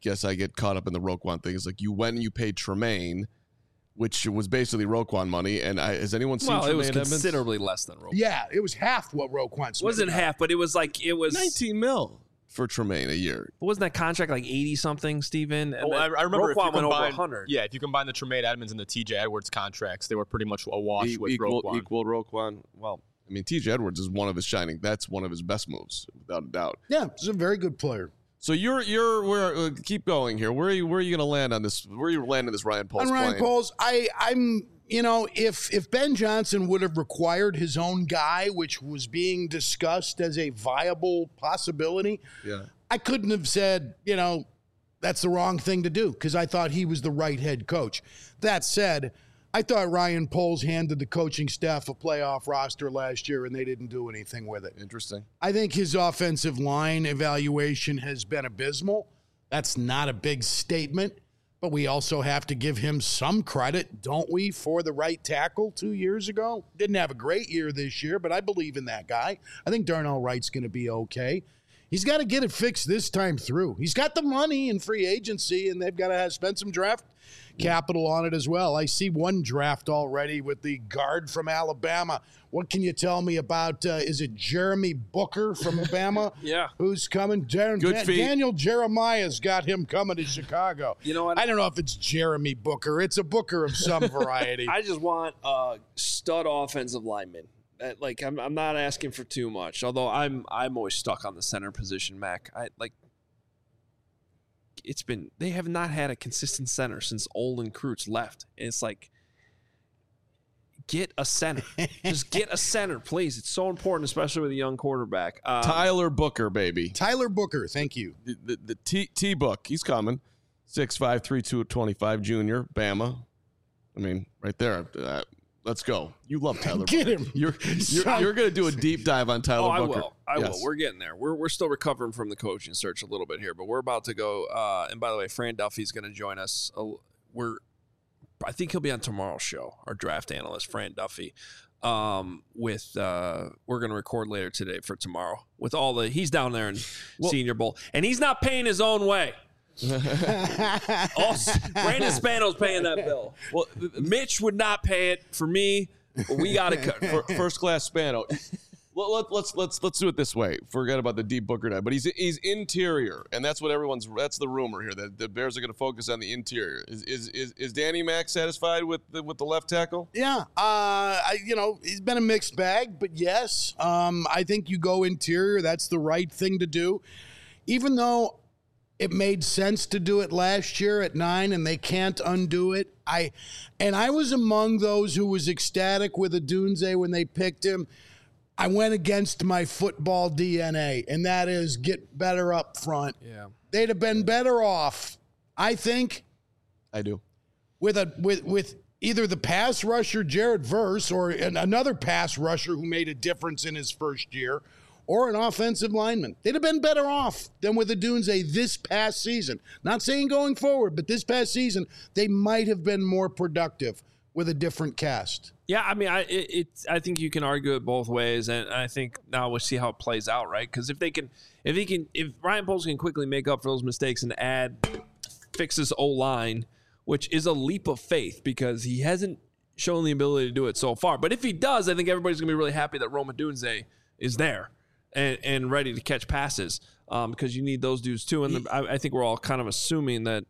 S1: guess I get caught up in the Roquan thing. It's like you went and you paid Tremaine, which was basically Roquan money. And I, has anyone seen
S2: well,
S1: Tremaine
S2: it was
S1: Edmonds?
S2: Considerably less than Roquan.
S3: Yeah, it was half what Roquan Smith
S2: It wasn't
S3: got.
S2: half, but it was like, it was.
S1: nineteen mil for Tremaine a year.
S2: But wasn't that contract like eighty something, Steven? And
S4: Oh, I,
S2: then
S4: I remember if you
S2: Roquan went over
S4: combine,
S2: one hundred.
S4: yeah, if you combine the Tremaine Edmonds and the T J Edwards contracts, they were pretty much a wash
S1: E-
S4: with
S1: equal,
S4: Roquan.
S1: equal Roquan. Well, I mean, T J Edwards is one of his shining. That's one of his best moves, without a doubt.
S3: Yeah, he's a very good player.
S1: So you're you're where uh, keep going here. Where are you where are you going to land on this? Where are you landing this Ryan Poles
S3: On Ryan
S1: plane?
S3: Poles, I, I'm, you know, if if Ben Johnson would have required his own guy, which was being discussed as a viable possibility,
S1: Yeah.
S3: I couldn't have said, you know, that's the wrong thing to do because I thought he was the right head coach. That said, I thought Ryan Poles handed the coaching staff a playoff roster last year and they didn't do anything with it.
S1: Interesting.
S3: I think his offensive line evaluation has been abysmal. That's not a big statement, but we also have to give him some credit, don't we, for the right tackle two years ago? Didn't have a great year this year, but I believe in that guy. I think Darnell Wright's going to be okay. He's got to get it fixed this time through. He's got the money in free agency, and they've got to have, spend some draft capital on it as well. I see one draft already with the guard from Alabama. What can you tell me about, uh, is it Jeremy Booker from Alabama?
S2: Yeah.
S3: Who's coming? Dar-
S1: Good
S3: Da-
S1: feet.
S3: Daniel Jeremiah's got him coming to Chicago.
S2: You know what?
S3: I don't know if it's Jeremy Booker. It's a Booker of some variety.
S2: I just want a stud offensive lineman. Uh, Like I'm, I'm not asking for too much. Although I'm, I'm always stuck on the center position, Mac. I like. It's been they have not had a consistent center since Olin Kreutz left. And it's like, get a center. Just get a center, please. It's so important, especially with a young quarterback. Um,
S1: Tyler Booker, baby.
S3: Tyler Booker, thank you.
S1: The the, the T T Book, he's coming. six five, three two twenty-five junior, Bama. I mean, right there. Uh, let's go. You love Tyler
S3: Get
S1: Booker.
S3: him.
S1: You're you're, you're going to do a deep dive on Tyler
S2: Oh, I
S1: Booker.
S2: will. I
S1: Yes.
S2: will. We're getting there. We're we're still recovering from the coaching search a little bit here, but we're about to go. Uh, and by the way, Fran Duffy's going to join us. Uh, we're, I think he'll be on tomorrow's show. Our draft analyst, Fran Duffy. Um, with uh, we're going to record later today for tomorrow. With all the he's down there in
S1: Well-
S2: Senior Bowl, and he's not paying his own way. Also, Brandon Spano's paying that bill.
S1: Well, th- th-
S2: Mitch would not pay it for me. But we got to cut.
S1: for, first class Spano. Let, let, let's let's let's do it this way. Forget about the deep Booker guy, but he's he's interior, and that's what everyone's. That's the rumor here that the Bears are going to focus on the interior. Is is is, is Danny Mack satisfied with the, with the left tackle?
S3: Yeah, uh, I, you know, he's been a mixed bag, but yes, um, I think you go interior. That's the right thing to do. Even though it made sense to do it last year at nine and they can't undo it. I and I was among those who was ecstatic with Odunze when they picked him. I went against my football D N A, and that is get better up front.
S2: Yeah.
S3: They'd have been better off, I think,
S1: I do.
S3: with a with with either the pass rusher Jared Verse or an, another pass rusher who made a difference in his first year, or an offensive lineman. They'd have been better off than with Odunze this past season. Not saying going forward, but this past season, they might have been more productive with a different cast.
S2: Yeah, I mean, I it, it's I think you can argue it both ways, and I think now we'll see how it plays out, right? Because if they can, if he can, if Ryan Poles can quickly make up for those mistakes and add, fix his O line, which is a leap of faith because he hasn't shown the ability to do it so far. But if he does, I think everybody's gonna be really happy that Rome Odunze is there and and ready to catch passes, um, because you need those dudes too. And the, I, I think we're all kind of assuming that,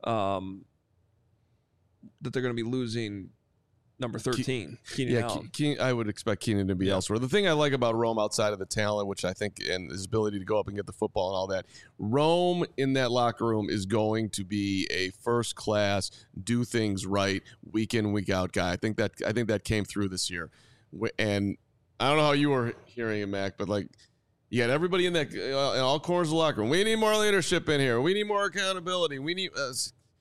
S2: um, that they're gonna be losing number thirteen, Keenan
S1: Yeah,
S2: Allen.
S1: Ke- Ke- I would expect Keenan to be elsewhere. The thing I like about Rome outside of the talent, which I think, and his ability to go up and get the football and all that, Rome in that locker room is going to be a first class, do things right, week in, week out guy. I think that I think that came through this year, Wh- and I don't know how you were hearing it, Mac, but like you got everybody in that uh, in all corners of the locker room. We need more leadership in here. We need more accountability. We need. Uh,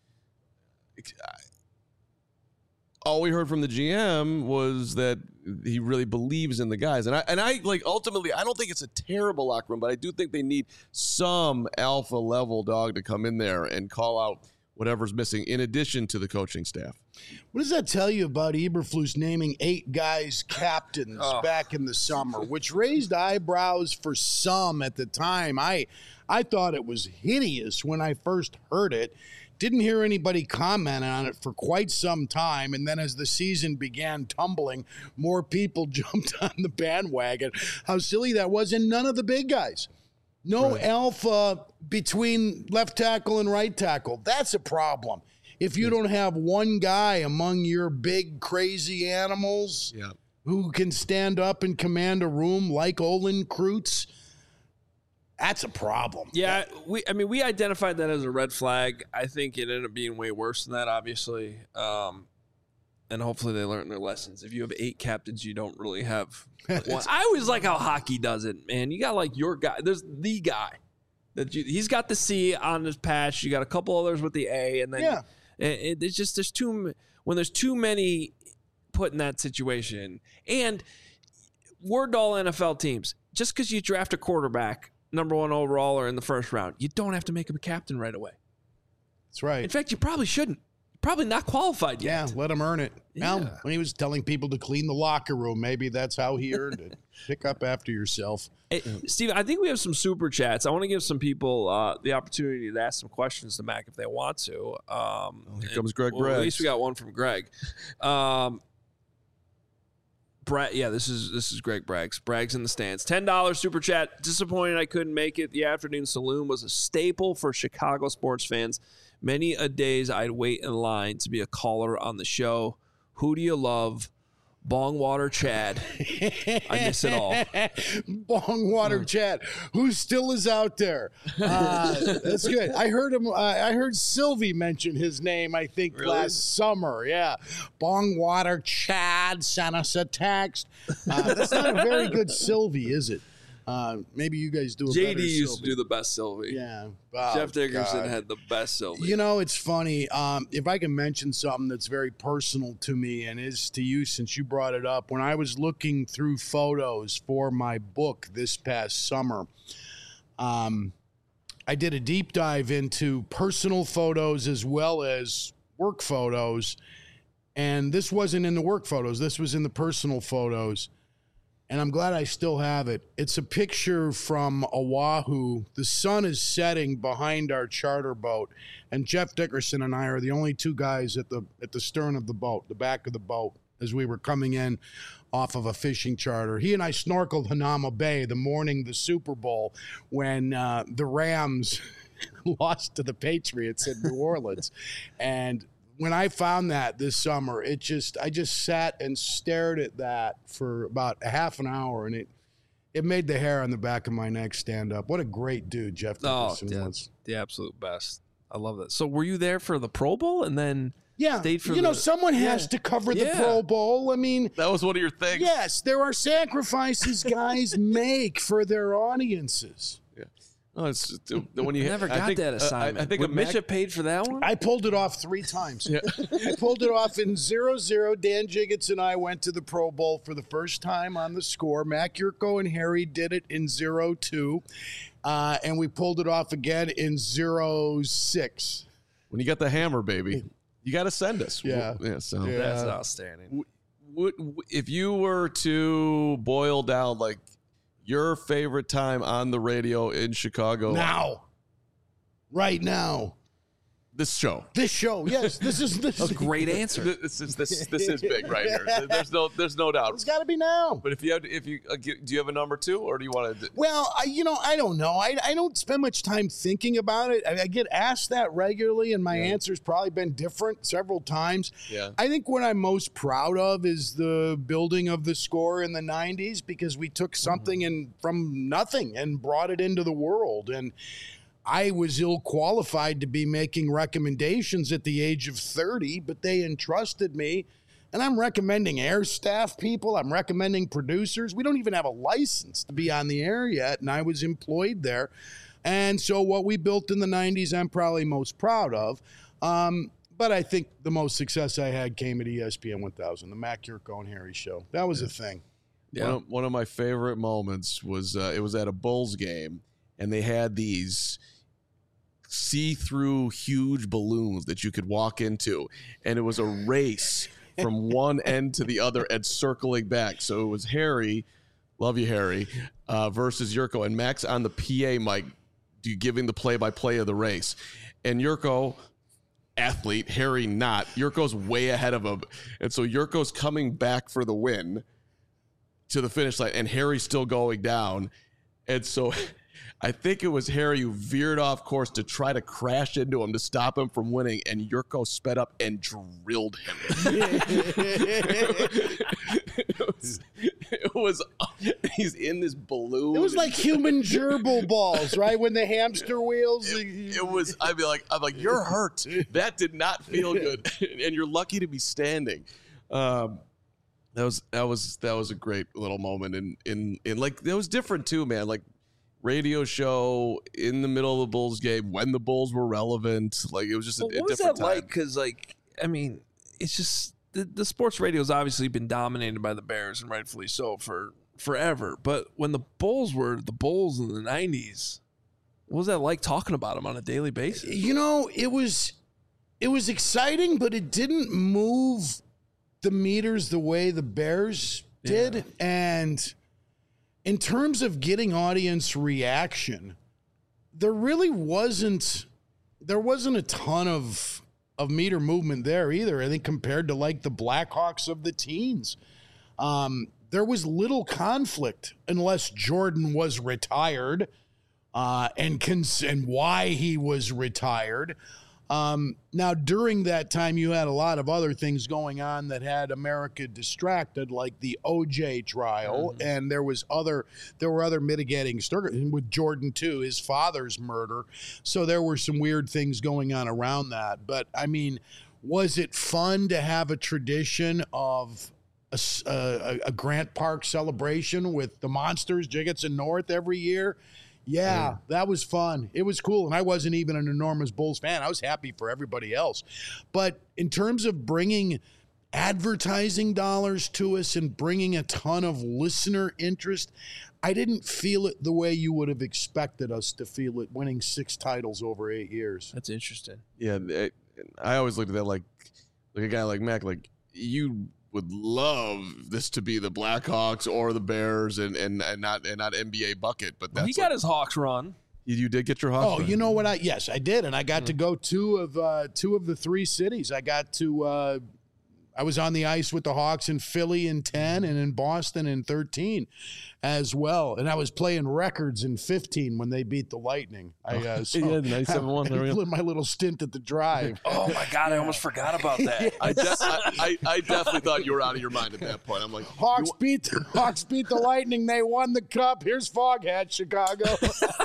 S1: all we heard from the G M was that he really believes in the guys. And I and I like ultimately I don't think it's a terrible locker room, but I do think they need some alpha level dog to come in there and call out whatever's missing in addition to the coaching staff.
S3: What does that tell you about Eberflus naming eight guys captains
S2: Oh.
S3: back in the summer, which raised eyebrows for some at the time? I I thought it was hideous when I first heard it. Didn't hear anybody comment on it for quite some time. And then as the season began tumbling, more people jumped on the bandwagon. How silly that was. And none of the big guys. No
S1: Right.
S3: alpha between left tackle and right tackle. That's a problem. If you don't have one guy among your big, crazy animals
S1: Yeah.
S3: who can stand up and command a room like Olin Kreutz, that's a problem.
S2: Yeah, we. I mean, we identified that as a red flag. I think it ended up being way worse than that, obviously. Um, and hopefully they learn their lessons. If you have eight captains, you don't really have one. I always like how hockey does it, man. You got like your guy. There's the guy that you, he's got the C on his patch. You got a couple others with the A, and then
S3: Yeah.
S2: it, it, it's just there's too when there's too many put in that situation. And word to all N F L teams: just because you draft a quarterback number one overall or in the first round, you don't have to make him a captain right away.
S3: That's right.
S2: In fact, you probably shouldn't. Probably not qualified
S3: Yeah,
S2: yet.
S3: let him earn it.
S2: Yeah.
S3: Well, when he was telling people to clean the locker room, maybe that's how he earned it. Pick up after yourself.
S2: Hey, Steve, I think we have some super chats. I want to give some people uh, the opportunity to ask some questions to Mac if they want to. Um,
S1: Here
S2: and-
S1: comes Greg
S2: well, At
S1: Braggs.
S2: least we got one from Greg. Um, Brad, yeah, this is this is Greg Braggs. Braggs in the stands. ten dollars super chat. Disappointed I couldn't make it. The afternoon saloon was a staple for Chicago sports fans. Many a days I'd wait in line to be a caller on the show. Who do you love? Bongwater Chad. I miss it all.
S3: Bongwater Chad, who still is out there. Uh, that's good. I heard him. Uh, I heard Sylvie mention his name, I think,
S1: Really?
S3: last summer. Yeah. Bongwater Chad sent us a text. Uh, that's not a very good Sylvie, is it? Uh, maybe you guys do a
S2: J
S3: better
S2: D used to
S3: Sylvie.
S2: do the best Sylvie.
S3: Yeah. Oh,
S2: Jeff Dickerson
S3: God.
S2: had the best Sylvie.
S3: You know, it's funny. Um, if I can mention something that's very personal to me and is to you since you brought it up, when I was looking through photos for my book this past summer, um, I did a deep dive into personal photos as well as work photos. And this wasn't in the work photos. This was in the personal photos. And I'm glad I still have it. It's a picture from Oahu. The sun is setting behind our charter boat, and Jeff Dickerson and I are the only two guys at the at the stern of the boat, the back of the boat, as we were coming in off of a fishing charter. He and I snorkeled Hanama Bay the morning the Super Bowl when uh, the Rams lost to the Patriots in New Orleans, and when I found that this summer, it just I just sat and stared at that for about a half an hour, and it it made the hair on the back of my neck stand up. What a great dude Jeff
S2: Oh,
S3: Dickerson
S2: yeah,
S3: was.
S2: the absolute best. I love that. So were you there for the Pro Bowl and then
S3: Yeah,
S2: stayed for
S3: you know,
S2: the-
S3: someone has
S2: Yeah.
S3: to cover the
S2: Yeah.
S3: Pro Bowl. I mean,
S1: That was one of your things.
S3: yes, there are sacrifices guys make for their audiences.
S1: Oh, it's just, uh, when you
S2: I never
S1: I
S2: got
S1: think,
S2: that
S1: uh,
S2: assignment?
S1: I, I think
S2: Would
S1: a
S2: Mitch
S1: Mac-
S2: have paid for that one?
S3: I pulled it off three times.
S1: Yeah.
S3: I pulled it off in zero zero. Dan Jiggets and I went to the Pro Bowl for the first time on the score. Mac Yurko and Harry did it in zero two. Uh, and we pulled it off again in zero six.
S1: when you got the hammer, baby, you got to send us.
S3: Yeah.
S1: yeah. So
S3: Yeah.
S2: That's outstanding.
S1: would, if you were to boil down like your favorite time on the radio in Chicago,
S3: Now. Right now.
S1: this show.
S3: This show. Yes, this is this
S2: That's
S3: is
S2: a great answer.
S1: This is this this is big right here. There's no there's no doubt.
S3: It's got to be now.
S1: But if you have if you uh, get- do you have a number two or do you want to?
S3: Well, I, you know, I don't know. I, I don't spend much time thinking about it. I, I get asked that regularly, and my
S1: Yeah.
S3: answer's probably been different several times.
S1: Yeah.
S3: I think what I'm most proud of is the building of the score in the nineties because we took something in from nothing and brought it into the world. And I was ill qualified to be making recommendations at the age of thirty, but they entrusted me. And I'm recommending air staff people. I'm recommending producers. We don't even have a license to be on the air yet, and I was employed there. And so what we built in the nineties, I'm probably most proud of. Um, but I think the most success I had came at E S P N one thousand, the Mac Yurko and Harry show. That was a thing.
S2: Yeah.
S1: One, of, one of my favorite moments was uh, it was at a Bulls game, and they had these see-through huge balloons that you could walk into, and it was a race from one end to the other and circling back. So it was Harry, love you, Harry, uh, versus Yurko, and Max on the P A mic giving the play-by-play of the race. And Yurko, athlete, Harry not. Yurko's way ahead of him. And so Yurko's coming back for the win to the finish line, and Harry's still going down. And so I think it was Harry who veered off course to try to crash into him to stop him from winning, and Yurko sped up and drilled him. it, was, it was, he's in this balloon.
S3: It was like human gerbil balls, right? When the hamster wheels.
S1: It, it was, I'd be like, I'm like, you're hurt. That did not feel good. And you're lucky to be standing. Um, that was, that was, that was a great little moment. And in, in, in like, that was different too, man. Like, radio show in the middle of the Bulls game when the Bulls were relevant. Like, it was just a,
S2: well,
S1: a
S2: what was
S1: different
S2: that
S1: time.
S2: like? Because, like, I mean, it's just the, the sports radio has obviously been dominated by the Bears, and rightfully so, for forever. But when the Bulls were the Bulls in the nineties, what was that like talking about them on a daily basis?
S3: You know, it was it was exciting, but it didn't move the meters the way the Bears did. Yeah. And in terms of getting audience reaction, there really wasn't there wasn't a ton of of meter movement there either. I think compared to like the Blackhawks of the teens, um, there was little conflict unless Jordan was retired, uh, and cons- and why he was retired. Um, now, during that time, you had a lot of other things going on that had America distracted, like the O J trial, mm-hmm. and there was other there were other mitigating circumstances with Jordan too, his father's murder. So there were some weird things going on around that. But I mean, was it fun to have a tradition of a, a, a Grant Park celebration with the Monsters, Jiggets, and North every year? Yeah, that was fun. It was cool. And I wasn't even an enormous Bulls fan. I was happy for everybody else. But in terms of bringing advertising dollars to us and bringing a ton of listener interest, I didn't feel it the way you would have expected us to feel it, winning six titles over eight years.
S2: That's interesting.
S1: Yeah, it, I always looked at that like, like a guy like Mac, like you would love this to be the Blackhawks or the Bears and and, and not and not N B A bucket, but that's
S2: well, he got
S1: like,
S2: his Hawks run.
S1: You, you did get your Hawks
S3: Oh,
S1: run.
S3: You know what? I yes, I did, and I got mm. to go two of uh, two of the three cities. I got to. Uh, I was on the ice with the Hawks in Philly in ten and in Boston in thirteen as well. And I was playing records in fifteen when they beat the Lightning. I uh, so
S1: yeah, ninety-seven one.
S3: My little stint at the Drive.
S2: Oh, my God. Yeah. I almost forgot about that.
S3: Yes.
S1: I, de- I, I, I definitely thought you were out of your mind at that point. I'm like,
S3: Hawks
S1: you-
S3: beat the, Hawks beat the Lightning. They won the cup. Here's Foghat, Chicago.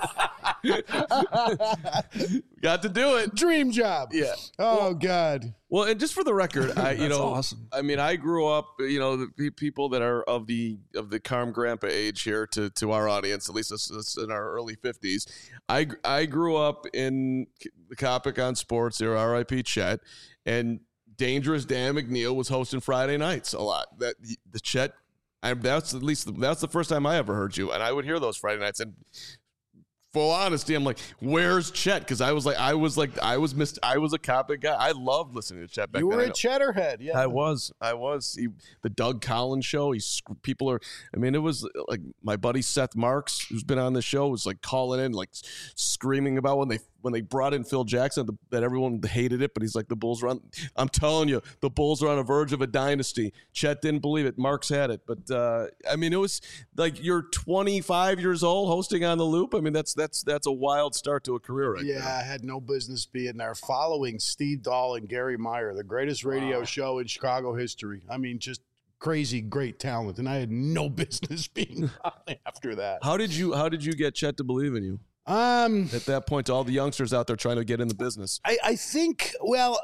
S1: got to do it.
S3: Dream job.
S1: Yeah.
S3: Oh,
S1: well,
S3: God.
S1: Well, and just for the record, I, you know,
S2: awesome.
S1: I mean, I grew up, you know, the pe- people that are of the of the Carm Grandpa age here to, to our audience, at least this is in our early fifties. I I grew up in the Copic on Sports era, R I P Chet, and Dangerous Dan McNeil was hosting Friday nights a lot. That the Chet, I, that's at least that's the first time I ever heard you, and I would hear those Friday nights. And full honesty, I'm like, where's Chet? Because I was like, I was like, I was missed. I was a Copic guy. I loved listening to Chet back
S3: you
S1: then.
S3: were a Cheddarhead, yeah.
S1: I was. I was. He, the Doug Collins show. He's people are. I mean, it was like my buddy Seth Marks, who's been on the show, was like calling in, like screaming about when they when they brought in Phil Jackson, the, that everyone hated it, but he's like, the Bulls are on. I'm telling you, the Bulls are on the verge of a dynasty. Chet didn't believe it. Marks had it, but uh, I mean, it was like you're twenty-five years old hosting on the Loop. I mean, that's that's that's a wild start to a career, right
S3: Yeah,
S1: there.
S3: I had no business being there. Following Steve Dahl and Gary Meyer, the greatest radio wow. show in Chicago history. I mean, just crazy, great talent, and I had no business being on after that.
S1: How did you How did you get Chet to believe in you?
S3: Um,
S1: at that point, to all the youngsters out there trying to get in the business,
S3: I, I think. Well,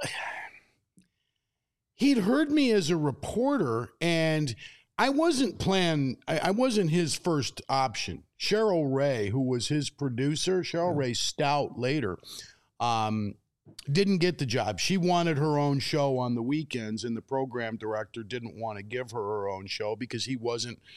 S3: he'd heard me as a reporter, and I wasn't planned. I, I wasn't his first option. Cheryl Ray, who was his producer, Cheryl Ray Stout later, um, didn't get the job. She wanted her own show on the weekends, and the program director didn't want to give her her own show because he wasn't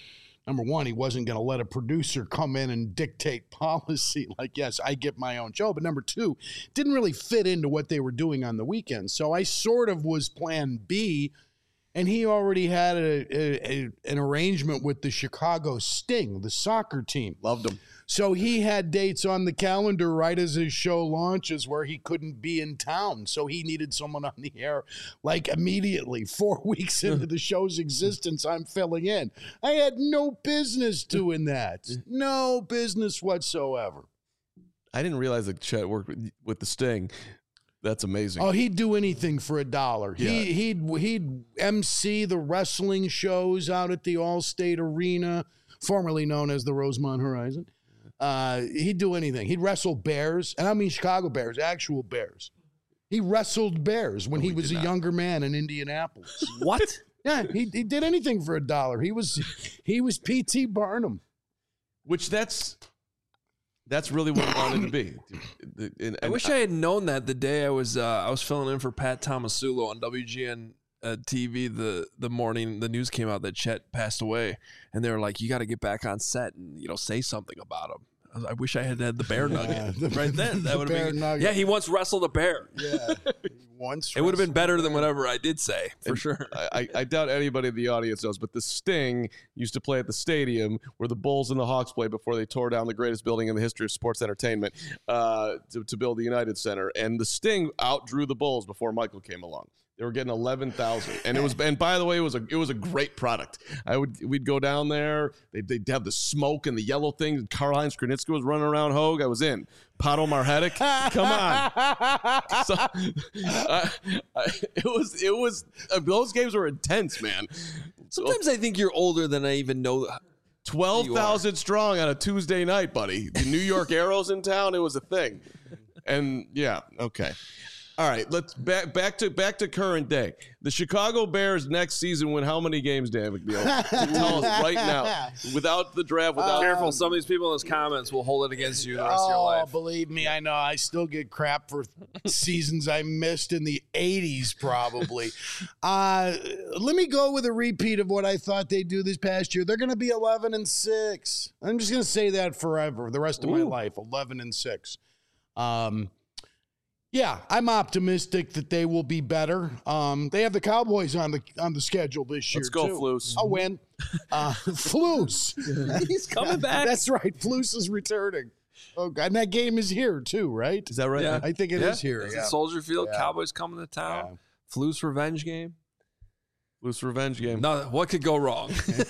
S3: number one, he wasn't going to let a producer come in and dictate policy. Like, yes, I get my own show. But number two, didn't really fit into what they were doing on the weekend. So I sort of was plan B. And he already had a, a, a, an arrangement with the Chicago Sting, the soccer team.
S1: Loved him.
S3: So he had dates on the calendar right as his show launches where he couldn't be in town. So he needed someone on the air like immediately. Four weeks into the show's existence, I'm filling in. I had no business doing that. No business whatsoever.
S1: I didn't realize that Chet worked with, with the Sting. That's amazing.
S3: Oh, he'd do anything for a dollar.
S1: Yeah.
S3: He, he'd he'd M C the wrestling shows out at the Allstate Arena, formerly known as the Rosemont Horizon. Uh, he'd do anything. He'd wrestle bears, and I mean Chicago Bears, actual bears. He wrestled bears when
S1: No,
S3: he
S1: he
S3: was a
S1: did not.
S3: younger man in Indianapolis.
S2: What?
S3: Yeah, he he did anything for a dollar. He was he was P T Barnum.
S1: Which that's that's really what I wanted to be. And-
S2: I
S1: and
S2: wish I had known that the day I was uh, I was filling in for Pat Tomasulo on W G N uh, T V the the morning the news came out that Chet passed away, and they were like, "You got to get back on set and you know say something about him." I, was, I wish I had had the bear nugget
S3: the-
S2: right then. That
S3: the
S2: would
S3: bear
S2: have been
S3: nugget.
S2: yeah. He once wrestled a bear.
S3: Yeah, once
S2: It would have been
S3: wrestled
S2: better
S3: a
S2: than
S3: bear.
S2: whatever I did say for
S1: And
S2: sure.
S1: I, I doubt anybody in the audience knows, but the Sting used to play at the stadium where the Bulls and the Hawks played before they tore down the greatest building in the history of sports entertainment uh, to, to build the United Center. And the Sting outdrew the Bulls before Michael came along. They were getting eleven thousand, and it was. And by the way, it was a it was a great product. I would we'd go down there. They'd, they'd have the smoke and the yellow thing. And Karl-Heinz Kranitski was running around Hogue. I was in. Pato Marhetic, come on. So, uh, I, it was it was uh, those games were intense, man.
S2: Sometimes I think you're older than I even know.
S1: Twelve thousand strong on a Tuesday night, buddy. The New York Arrows in town. It was a thing, and yeah, okay. All right, let's back back to back to current day. The Chicago Bears next season win how many games, Dan McNeil? Tell us right now, without the draft, without
S2: Careful, some of these people in those comments will hold it against you the rest of your
S3: Oh,
S2: life.
S3: believe me, I know. I still get crap for seasons I missed in the eighties, probably. Uh, let me go with a repeat of what I thought they'd do this past year. They're going to be eleven and six. I'm just going to say that forever, the rest of my
S2: Ooh.
S3: life, eleven and six. Um, yeah, I'm optimistic that they will be better. Um, they have the Cowboys on the on the schedule this year.
S1: Let's go,
S3: too.
S1: Flus.
S3: I'll win. Uh, Flus.
S2: He's coming back.
S3: That's right. Flus is returning. Oh, God. And that game is here, too, right?
S1: Is that right?
S2: Yeah.
S3: I think it is
S1: Yeah.
S3: here.
S2: It's
S3: Yeah.
S2: at Soldier Field.
S3: Yeah.
S2: Cowboys coming to town. Flu's revenge game.
S1: Loose revenge game.
S2: No, what could go wrong?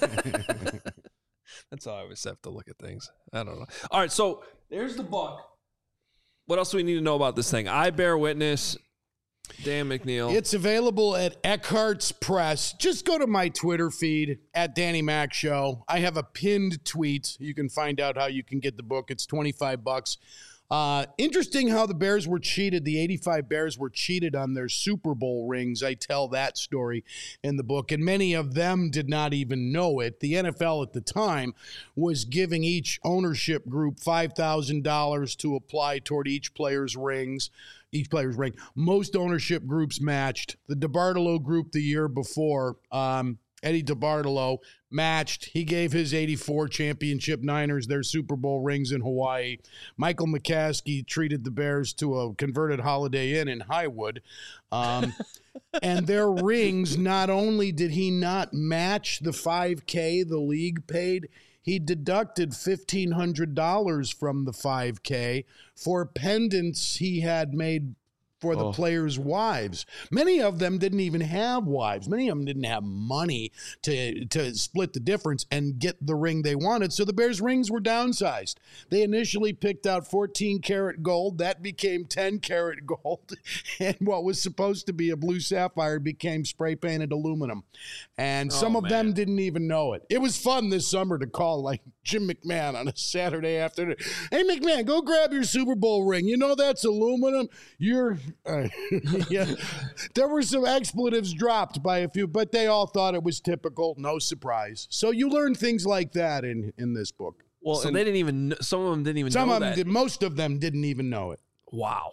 S2: That's how I always have to look at things. I don't know. All right, so there's the book. What else do we need to know about this thing? I Bear Witness, Dan McNeil.
S3: It's available at Eckhart's Press. Just go to my Twitter feed at Danny Mac Show. I have a pinned tweet. You can find out how you can get the book. It's twenty-five bucks. Uh, interesting how the Bears were cheated. The eighty-five Bears were cheated on their Super Bowl rings. I tell that story in the book, and many of them did not even know it. The N F L at the time was giving each ownership group five thousand dollars to apply toward each player's rings. Each player's ring. Most ownership groups matched. The DeBartolo group the year before, um, Eddie DeBartolo matched. He gave his eighty-four championship Niners their Super Bowl rings in Hawaii. Michael McCaskey treated the Bears to a converted Holiday Inn in Highwood. Um, and their rings, not only did he not match the five K the league paid, he deducted fifteen hundred dollars from the five K for pendants he had made for the
S1: Oh.
S3: players' wives. Many of them didn't even have wives. Many of them didn't have money to, to split the difference and get the ring they wanted. So the Bears' rings were downsized. They initially picked out fourteen karat gold. That became ten karat gold. And what was supposed to be a blue sapphire became spray painted aluminum. And some
S2: Oh,
S3: of them
S2: man.
S3: didn't even know it. It was fun this summer to call like Jim McMahon on a Saturday afternoon. Hey, McMahon, go grab your Super Bowl ring. You know that's aluminum. You're, uh, yeah. There were some expletives dropped by a few, but they all thought it was typical. No surprise. So you learn things like that in in this book.
S1: Well,
S2: so
S1: and
S2: they didn't even. kn- Some of them didn't even
S3: Some
S2: know
S3: of them,
S2: that.
S3: did, most of them didn't even know it.
S2: Wow.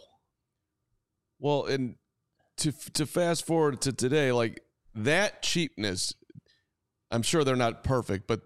S1: well, and to to fast forward to today, like that cheapness, I'm sure they're not perfect, but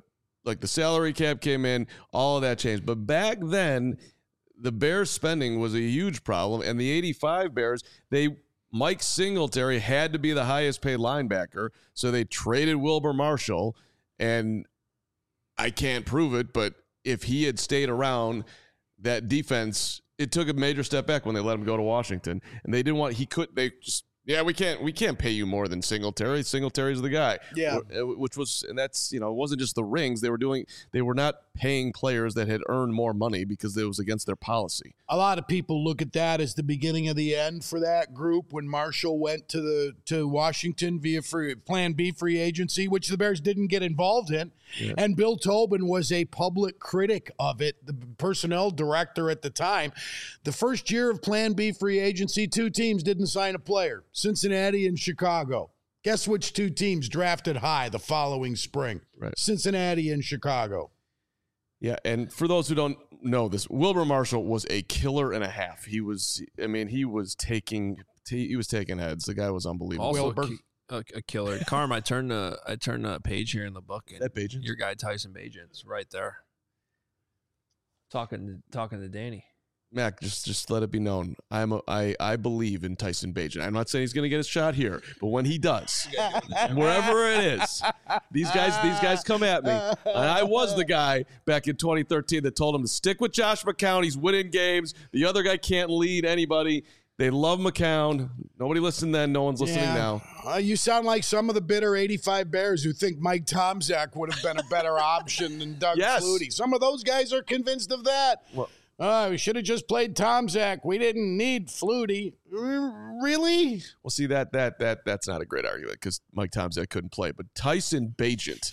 S1: like the salary cap came in, all of that changed. But back then, the Bears spending was a huge problem, and the eighty-five Bears, they Mike Singletary had to be the highest paid linebacker, so they traded Wilber Marshall, and I can't prove it, but if he had stayed around, that defense, it took a major step back when they let him go to Washington, and they didn't want, he could, they just, yeah, we can't, we can't pay you more than Singletary. Singletary's the guy.
S3: Yeah.
S1: Which was, and that's, you know, it wasn't just the rings. They were doing, they were not paying players that had earned more money because it was against their policy.
S3: A lot of people look at that as the beginning of the end for that group when Marshall went to the to Washington via free, Plan B free agency, which the Bears didn't get involved in. Yeah. And Bill Tobin was a public critic of it, the personnel director at the time. The first year of Plan B free agency, two teams didn't sign a player, Cincinnati and Chicago. Guess which two teams drafted high the following spring?
S1: Right.
S3: Cincinnati and Chicago.
S1: Yeah, and for those who don't know this, Wilber Marshall was a killer and a half. He was, I mean, he was taking, he was taking heads. The guy was unbelievable.
S2: Also
S3: Wilber.
S2: A, a killer. Carm, I turned a, I turned a page here in the book. And
S1: that Bajan?
S2: Your guy Tyson Bajan's right there. Talking to, talking to Danny.
S1: Mac, just just let it be known. I'm a, I I believe in Tyson Bagent. I'm not saying he's going to get his shot here, but when he does, wherever it is, these guys these guys come at me. And I was the guy back in twenty thirteen that told him to stick with Josh McCown. He's winning games. The other guy can't lead anybody. They love McCown. Nobody listened then. No one's listening
S3: yeah.
S1: now.
S3: Uh, you sound like some of the bitter eighty-five Bears who think Mike Tomczak would have been a better option than Doug
S1: Yes.
S3: Flutie. Some of those guys are convinced of that.
S1: Well,
S3: Uh, we should have just played Tomczak. We didn't need Flutie. Really?
S1: Well, see, that that that that's not a great argument because Mike Tomczak couldn't play. But Tyson Bagent.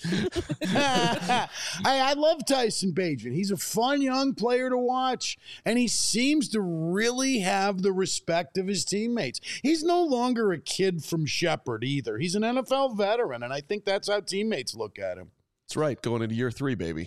S3: I, I love Tyson Bagent. He's a fun young player to watch, and he seems to really have the respect of his teammates. He's no longer a kid from Shepherd either. He's an N F L veteran, and I think that's how teammates look at him.
S1: That's right. Going into year three, baby.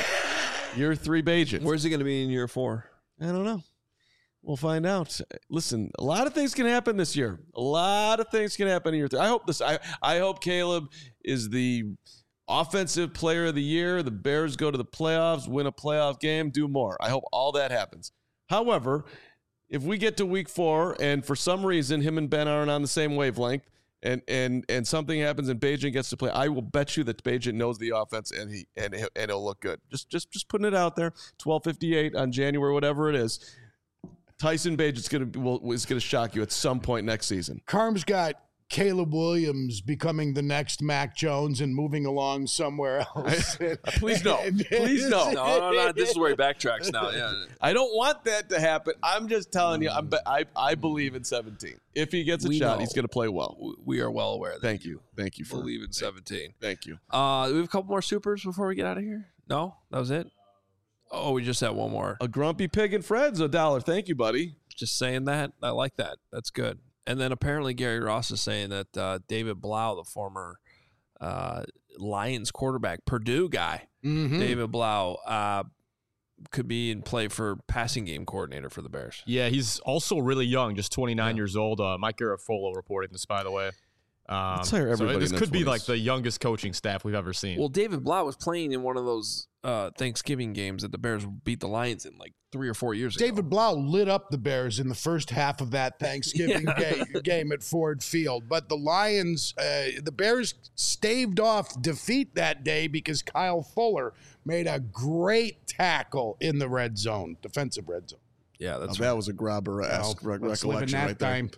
S1: Year three Bagent.
S2: Where's he going to be in year four?
S1: I don't know. We'll find out. Listen, a lot of things can happen this year. A lot of things can happen in year three. I hope this. I, I hope Caleb is the offensive player of the year. The Bears go to the playoffs, win a playoff game, do more. I hope all that happens. However, if we get to week four and for some reason him and Ben aren't on the same wavelength, and and and something happens and Bagent gets to play, I will bet you that Bagent knows the offense and he and and it'll look good. Just just just putting it out there. twelve fifty-eight on January, whatever it is. Tyson Bagent's gonna will is gonna shock you at some point next season.
S3: Carm's got Caleb Williams becoming the next Mac Jones and moving along somewhere else.
S1: Please no. Please no.
S2: No, no, no. This is where he backtracks now. Yeah.
S1: I don't want that to happen. I'm just telling you. I'm, I I believe in seventeen. If he gets a
S2: We
S1: shot,
S2: know.
S1: he's going to play well.
S2: We are well aware. That
S1: Thank you. Thank you for
S2: believe in seventeen.
S1: Thank you.
S2: Uh, do we have a couple more supers before we get out of here? No, that was it. Oh, we just had one more.
S1: A grumpy pig and Fred's a dollar. Thank you, buddy.
S2: Just saying that. I like that. That's good. And then apparently Gary Ross is saying that uh, David Blau, the former uh, Lions quarterback, Purdue guy,
S3: Mm-hmm.
S2: David Blau, uh, could be in play for passing game coordinator for the Bears.
S4: Yeah, he's also really young, just twenty-nine
S2: Yeah.
S4: years old. Uh, Mike Garafolo reported this, by the way. Um,
S1: Let's hire everybody
S4: so this
S1: in their
S4: could be
S1: twenties.
S4: like the youngest coaching staff we've ever seen.
S2: Well, David Blau was playing in one of those uh, Thanksgiving games that the Bears beat the Lions in like three or four years ago.
S3: David Blau lit up the Bears in the first half of that Thanksgiving
S2: Yeah.
S3: ga- game at Ford Field. But the Lions, uh, the Bears staved off defeat that day because Kyle Fuller made a great tackle in the red zone, defensive red zone.
S2: Yeah, that's
S1: Now, that was a grobber-esque
S3: Well,
S1: re-
S3: let's live in
S1: recollection
S3: that
S1: right there.
S3: time.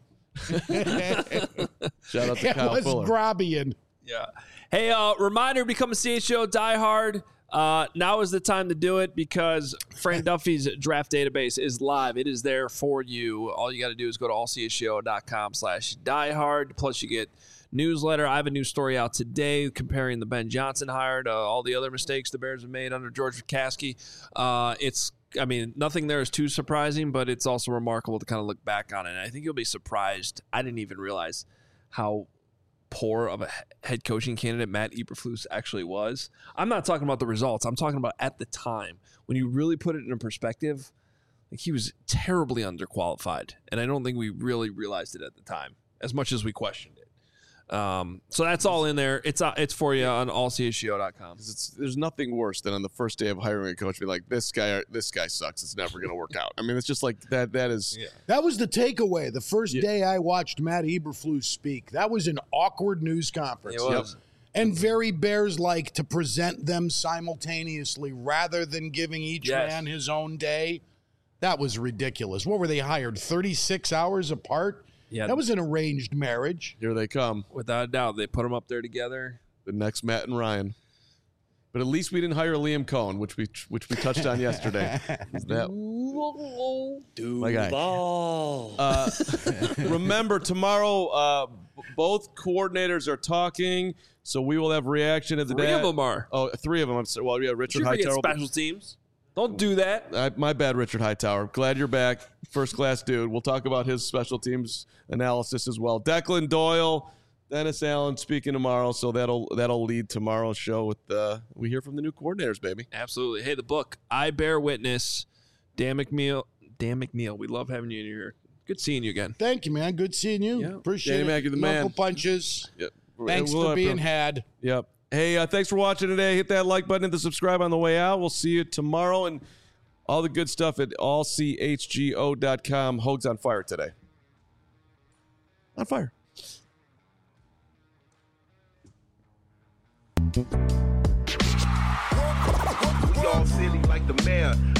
S1: Shout out to
S3: It
S1: Kyle
S3: was
S1: Fuller.
S3: Grobbian.
S2: Yeah. Hey, uh, reminder, become a C H O diehard. Uh, now is the time to do it because Fran Duffy's draft database is live. It is there for you. All you got to do is go to allcho.com slash diehard. Plus, you get newsletter. I have a new story out today comparing the Ben Johnson hire to all the other mistakes the Bears have made under George McCaskey. Uh, it's, I mean, nothing there is too surprising, but it's also remarkable to kind of look back on it. And I think you'll be surprised. I didn't even realize how poor of a head coaching candidate Matt Eberflus actually was. I'm not talking about the results. I'm talking about at the time. When you really put it in perspective, like he was terribly underqualified. And I don't think we really realized it at the time, as much as we questioned it. Um, so that's all in there. It's uh, it's for you on all c h g o dot com.
S1: It's, there's nothing worse than on the first day of hiring a coach, be like, this guy, this guy sucks. It's never going to work out. I mean, it's just like that. That is. Yeah.
S3: That was the takeaway. The first
S1: Yeah.
S3: day I watched Matt Eberflus speak, that was an awkward news conference.
S2: It was.
S3: Yep. And very Bears-like to present them simultaneously rather than giving each
S2: Yes.
S3: man his own day. That was ridiculous. What were they hired? thirty-six hours apart?
S2: Yeah,
S3: That was an arranged marriage.
S1: Here they come.
S2: without a doubt. They put them up there together.
S1: The next Matt and Ryan. But at least we didn't hire Liam Cohen, which we which we touched on yesterday. That, my guy. Uh, remember, tomorrow uh, b- both coordinators are talking, so we will have reaction at the
S2: Three
S1: day.
S2: of them are.
S1: Oh, three of them. I'm sorry. Well, yeah,
S2: You
S1: Richard
S2: forget
S1: Hightower.
S2: special teams. Don't do that.
S1: I, my bad, Richard Hightower. Glad you're back. First class dude. We'll talk about his special teams analysis as well. Declan Doyle, Dennis Allen speaking tomorrow, so that'll that'll lead tomorrow's show with uh, we hear from the new coordinators, baby.
S2: Absolutely. Hey, the book, I Bear Witness, Dan McNeil. Dan McNeil, we love having you in here. Good seeing you again.
S3: Thank you, man. Good seeing you.
S1: Yeah.
S3: Appreciate
S1: Danny
S3: it.
S1: Mac, you're the
S3: Knuckle
S1: man.
S3: punches.
S1: Yep.
S3: Thanks
S1: We'll
S3: for
S1: have
S3: being
S1: to-
S3: had.
S1: Yep. Hey, uh, thanks for watching today. Hit that like button, hit the subscribe on the way out. We'll see you tomorrow and all the good stuff at all c h g o dot com. Hogs on fire today. On fire.
S5: We all silly like the mayor.